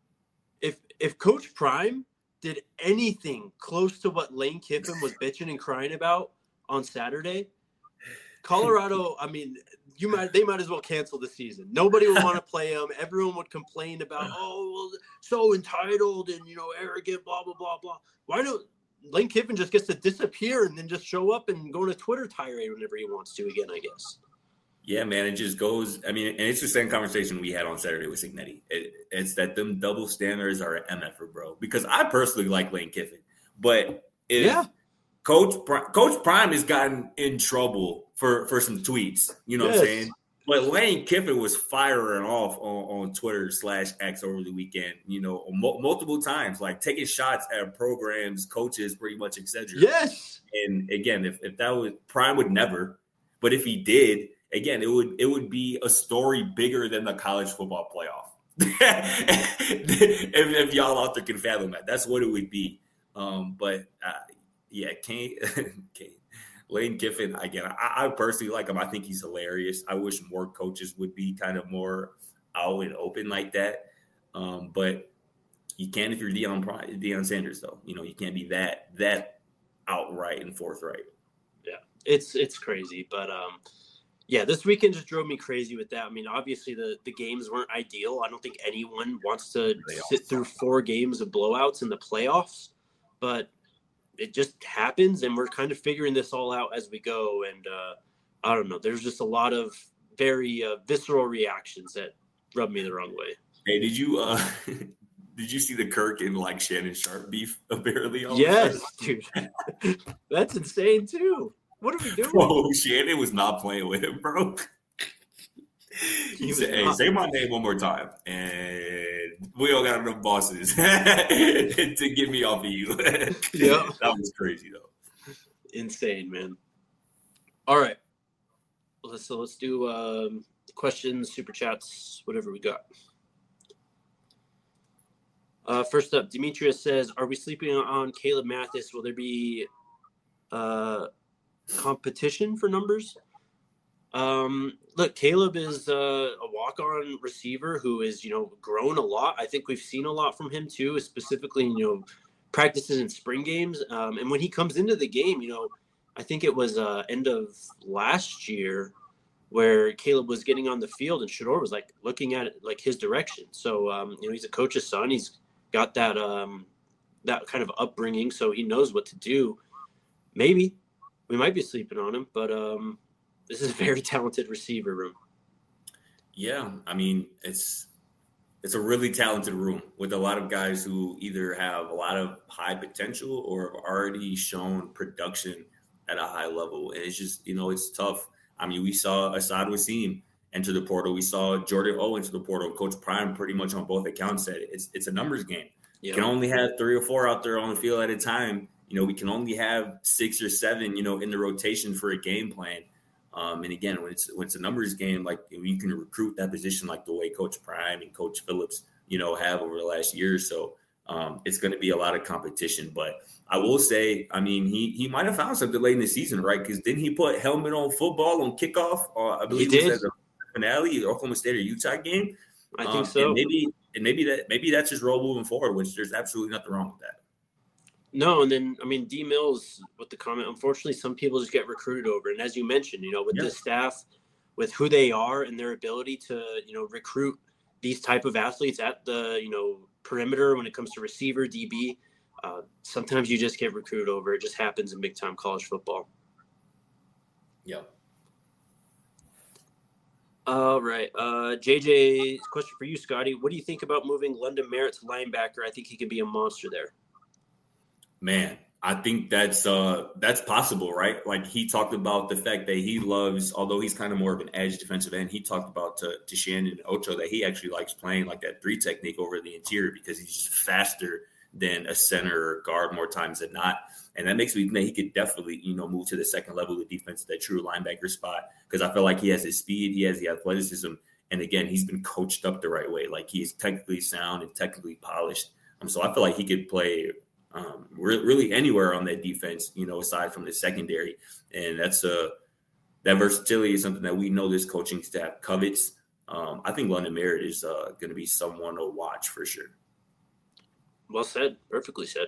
S3: If if Coach Prime did anything close to what Lane Kiffin was bitching and crying about on Saturday, Colorado, I mean, you might they might as well cancel the season. Nobody would want to play him. Everyone would complain about, oh, well, so entitled and, you know, arrogant, blah, blah, blah, blah. Why don't Lane Kiffin just gets to disappear and then just show up and go on a Twitter tirade whenever he wants to again, I guess.
S2: Yeah, man, it just goes. I mean, and it's the same conversation we had on Saturday with Cignetti. It, it's that them double standards are an M F er, bro. Because I personally like Lane Kiffin, but if yeah. Coach Coach Prime has gotten in trouble for, for some tweets, you know yes. what I'm saying? But Lane Kiffin was firing off on, on Twitter slash X over the weekend, you know, mo- multiple times, like taking shots at programs, coaches, pretty much, et cetera.
S3: Yes.
S2: And again, if, if that was Prime would never, but if he did, again, it would it would be a story bigger than the college football playoff. if, if y'all out there can fathom that, that's what it would be. Um, but uh, yeah, Kane, Kane. Lane Kiffin, again, I, I personally like him. I think he's hilarious. I wish more coaches would be kind of more out and open like that. Um, but you can if you're Deion, Deion Sanders, though. You know, you can't be that that outright and forthright.
S3: Yeah, it's it's crazy. But, um, yeah, this weekend just drove me crazy with that. I mean, obviously the, the games weren't ideal. I don't think anyone wants to sit through four games of blowouts in the playoffs. But it just happens, and we're kind of figuring this all out as we go. And uh, I don't know. There's just a lot of very uh, visceral reactions that rub me the wrong way.
S2: Hey, did you uh, did you see the Kirk and like Shannon Sharp beef apparently?
S3: Yes, dude. That's insane too. What are we doing?
S2: Bro, Shannon was not playing with him, bro. He, he said, "Hey, say my name one more time, and we all got enough bosses to get me off of you." Yeah, that was crazy though.
S3: Insane, man. All right, let's so let's do um, questions, super chats, whatever we got. Uh, first up, Demetrius says, "Are we sleeping on Caleb Mathis? Will there be uh, competition for numbers?" Um, look, Caleb is uh, a walk-on receiver who is, you know, grown a lot. I think we've seen a lot from him too, specifically, you know, practices in spring games. Um, and when he comes into the game, you know, I think it was uh, end of last year where Caleb was getting on the field and Shedeur was like looking at it like his direction. So, um, you know, he's a coach's son. He's got that um, that kind of upbringing, so he knows what to do. Maybe we might be sleeping on him, but um, this is a very talented receiver room.
S2: Yeah, I mean, it's it's a really talented room with a lot of guys who either have a lot of high potential or have already shown production at a high level. And it's just, you know, it's tough. I mean, we saw Asad Wasim enter the portal. We saw Jordan O enter the portal. Coach Prime pretty much on both accounts said it. It's, it's a numbers game. Yeah. You can only have three or four out there on the field at a time. You know, we can only have six or seven, you know, in the rotation for a game plan. Um, and again, when it's when it's a numbers game, like you can recruit that position like the way Coach Prime and Coach Phillips, you know, have over the last year or so. Um, it's going to be a lot of competition, but I will say, I mean, he he might have found something late in the season, right? Because didn't he put helmet on football on kickoff? Uh, I believe
S3: he
S2: it
S3: did.
S2: was at the finale, Oklahoma State or Utah game.
S3: I
S2: um,
S3: think so.
S2: And maybe and maybe that maybe that's his role moving forward, which there's absolutely nothing wrong with that.
S3: No, and then I mean D Mills with the comment. Unfortunately, some people just get recruited over, and as you mentioned, you know, with
S2: Yeah.
S3: the staff, with who they are and their ability to you know recruit these type of athletes at the you know perimeter when it comes to receiver, D B. Uh, sometimes you just get recruited over. It just happens in big time college football.
S2: Yep.
S3: All right. Uh, J J, question for you, Scotty. What do you think about moving London Merritt to linebacker? I think he could be a monster there.
S2: Man, I think that's uh that's possible, right? Like he talked about the fact that he loves, although he's kind of more of an edge defensive end, he talked about to, to Shannon and Ocho that he actually likes playing like that three technique over the interior because he's just faster than a center or guard more times than not. And that makes me think he could definitely, you know, move to the second level of defense, that true linebacker spot, because I feel like he has his speed, he has the athleticism, and again, he's been coached up the right way. Like he's technically sound and technically polished. Um, so I feel like he could play um, re- really anywhere on that defense, you know, aside from the secondary. And that's a that versatility is something that we know this coaching staff covets. Um, I think London Merritt is uh, going to be someone to watch for sure.
S3: Well said. Perfectly said.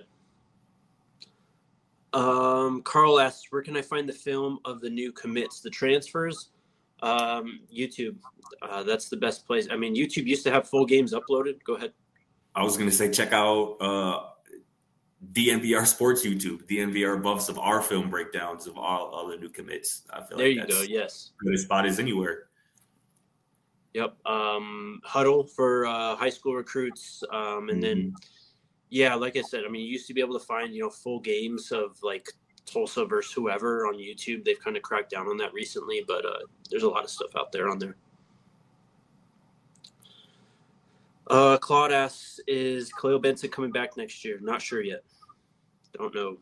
S3: Um, Carl asks, where can I find the film of the new commits, the transfers? Um, YouTube. Uh, that's the best place. I mean, YouTube used to have full games uploaded. Go ahead.
S2: I was going to say, check out uh, D N V R Sports YouTube, D N V R buffs of our film breakdowns of all, all the new commits. I feel
S3: there
S2: like
S3: you
S2: that's
S3: go. Yes.
S2: good spot as anywhere.
S3: Yep. Um, Huddle for uh, high school recruits. Um, and mm-hmm. then, yeah, like I said, I mean, you used to be able to find, you know, full games of like Tulsa versus whoever on YouTube. They've kind of cracked down on that recently, but uh, there's a lot of stuff out there on there. Uh, Claude asks, is Khalil Benson coming back next year? Not sure yet. Don't know.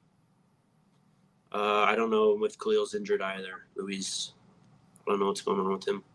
S3: Uh, I don't know if Khalil's injured either. Luis, I don't know what's going on with him.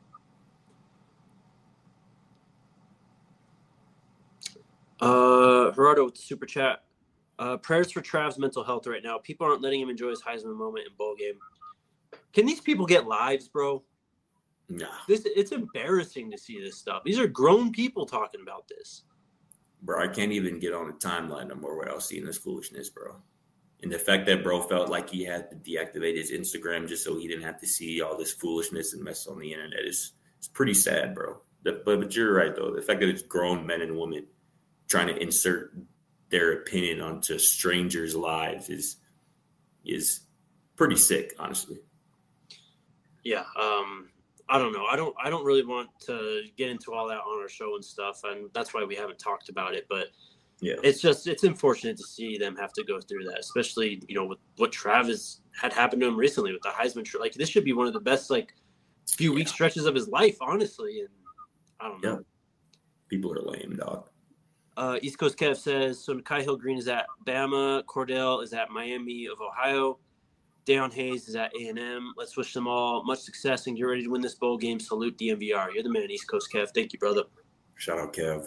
S3: Uh, Gerardo with the super chat. Uh, prayers for Trav's mental health right now. People aren't letting him enjoy his Heisman moment in bowl game. Can these people get lives, bro?
S2: Nah.
S3: This it's embarrassing to see this stuff. These are grown people talking about this.
S2: Bro, I can't even get on the timeline no more without seeing this foolishness, bro. And the fact that bro felt like he had to deactivate his Instagram just so he didn't have to see all this foolishness and mess on the internet is it's pretty sad, bro. The, but, but you're right, though. The fact that it's grown men and women trying to insert their opinion onto strangers' lives is is pretty sick, honestly.
S3: Yeah, um, I don't know. I don't. I don't really want to get into all that on our show and stuff, and that's why we haven't talked about it. But
S2: yeah,
S3: it's just it's unfortunate to see them have to go through that, especially you know with what Travis had happened to him recently with the Heisman. Like this should be one of the best like few yeah. week stretches of his life, honestly. And I don't know.
S2: Yeah. People are lame, dog.
S3: Uh, East Coast Kev says, so Nikhai Hill-Green is at Bama. Cordell is at Miami of Ohio. Deion Hayes is at A and M. Let's wish them all much success and get ready to win this bowl game. Salute D M V R. You're the man, East Coast Kev. Thank you, brother.
S2: Shout out, Kev.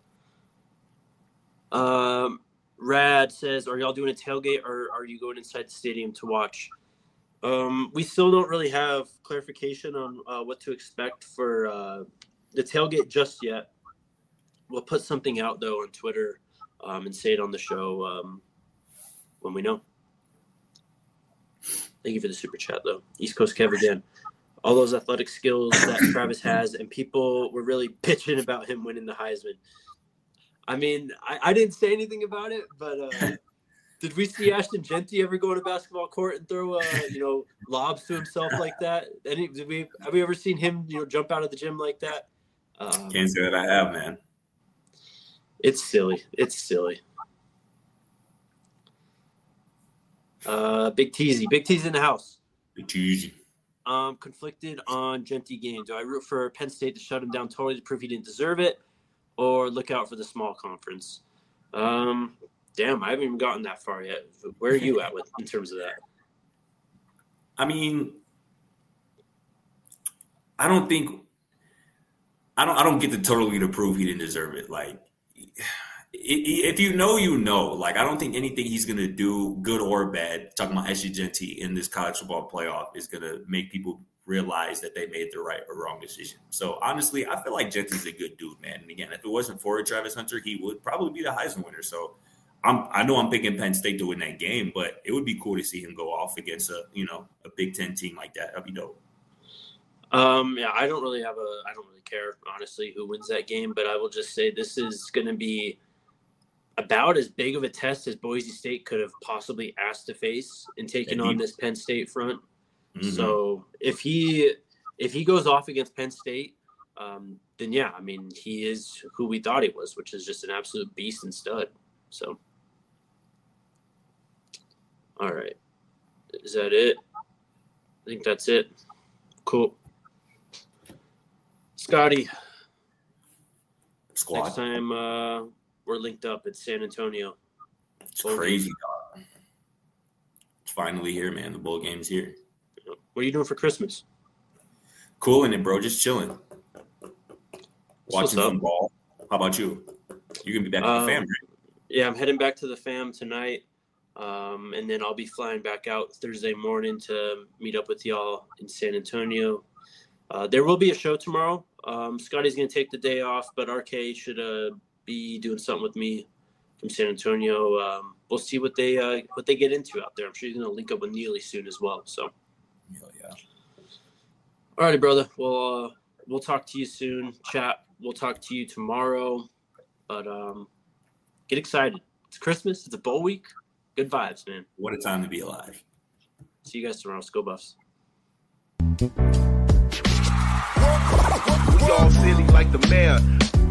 S3: Um, Rad says, are y'all doing a tailgate or are you going inside the stadium to watch? Um, we still don't really have clarification on uh, what to expect for uh, the tailgate just yet. We'll put something out, though, on Twitter um, and say it on the show um, when we know. Thank you for the super chat, though. East Coast Kev again. All those athletic skills that Travis has, and people were really bitching about him winning the Heisman. I mean, I, I didn't say anything about it, but uh, did we see Ashton Genty ever go on a basketball court and throw, uh, you know, lobs to himself like that? Any, did we have we ever seen him, you know, jump out of the gym like that? Um,
S2: Can't say that I have, man.
S3: It's silly. It's silly. Uh, Big Teasy. Big T's in the house.
S2: Big Teasy.
S3: Um, conflicted on Genty game. Do I root for Penn State to shut him down totally to prove he didn't deserve it, or look out for the small conference? Um, damn, I haven't even gotten that far yet. Where are you at with in terms of that?
S2: I mean, I don't think I don't I don't get to totally to prove he didn't deserve it. Like, if you know, you know. Like, I don't think anything he's going to do, good or bad, talking about S G Genty in this college football playoff, is going to make people realize that they made the right or wrong decision. So, honestly, I feel like Genty's a good dude, man. And, again, if it wasn't for Travis Hunter, he would probably be the Heisman winner. So, I'm, I know I'm picking Penn State to win that game, but it would be cool to see him go off against a, you know, a Big Ten team like that. That'd be dope.
S3: Um, yeah, I don't really have a – I don't really care, honestly, who wins that game. But I will just say this is going to be – about as big of a test as Boise State could have possibly asked to face in taking on this Penn State front. Mm-hmm. So if he if he goes off against Penn State, um, then yeah, I mean, he is who we thought he was, which is just an absolute beast and stud. So, all right, is that it? I think that's it. Cool, Scotty.
S2: Squad.
S3: Next time. Uh, We're linked up at San Antonio.
S2: It's crazy, dog. It's finally here, man. The bowl game's here.
S3: What are you doing for Christmas?
S2: Cooling it, bro. Just chilling. Watching some ball. How about you? You're going to be back um, with the fam, right?
S3: Yeah, I'm heading back to the fam tonight. Um, and then I'll be flying back out Thursday morning to meet up with y'all in San Antonio. Uh, there will be a show tomorrow. Um, Scotty's going to take the day off, but R K should uh, – be doing something with me from San Antonio. Um, we'll see what they uh, what they get into out there. I'm sure he's going to link up with Neely soon as well. So,
S2: hell yeah.
S3: All righty, brother. Well, uh, we'll talk to you soon. Chat. We'll talk to you tomorrow. But um, get excited. It's Christmas. It's a bowl week. Good vibes, man.
S2: What a time to be alive.
S3: See you guys tomorrow. Let's go Buffs.
S4: We all silly like the mayor.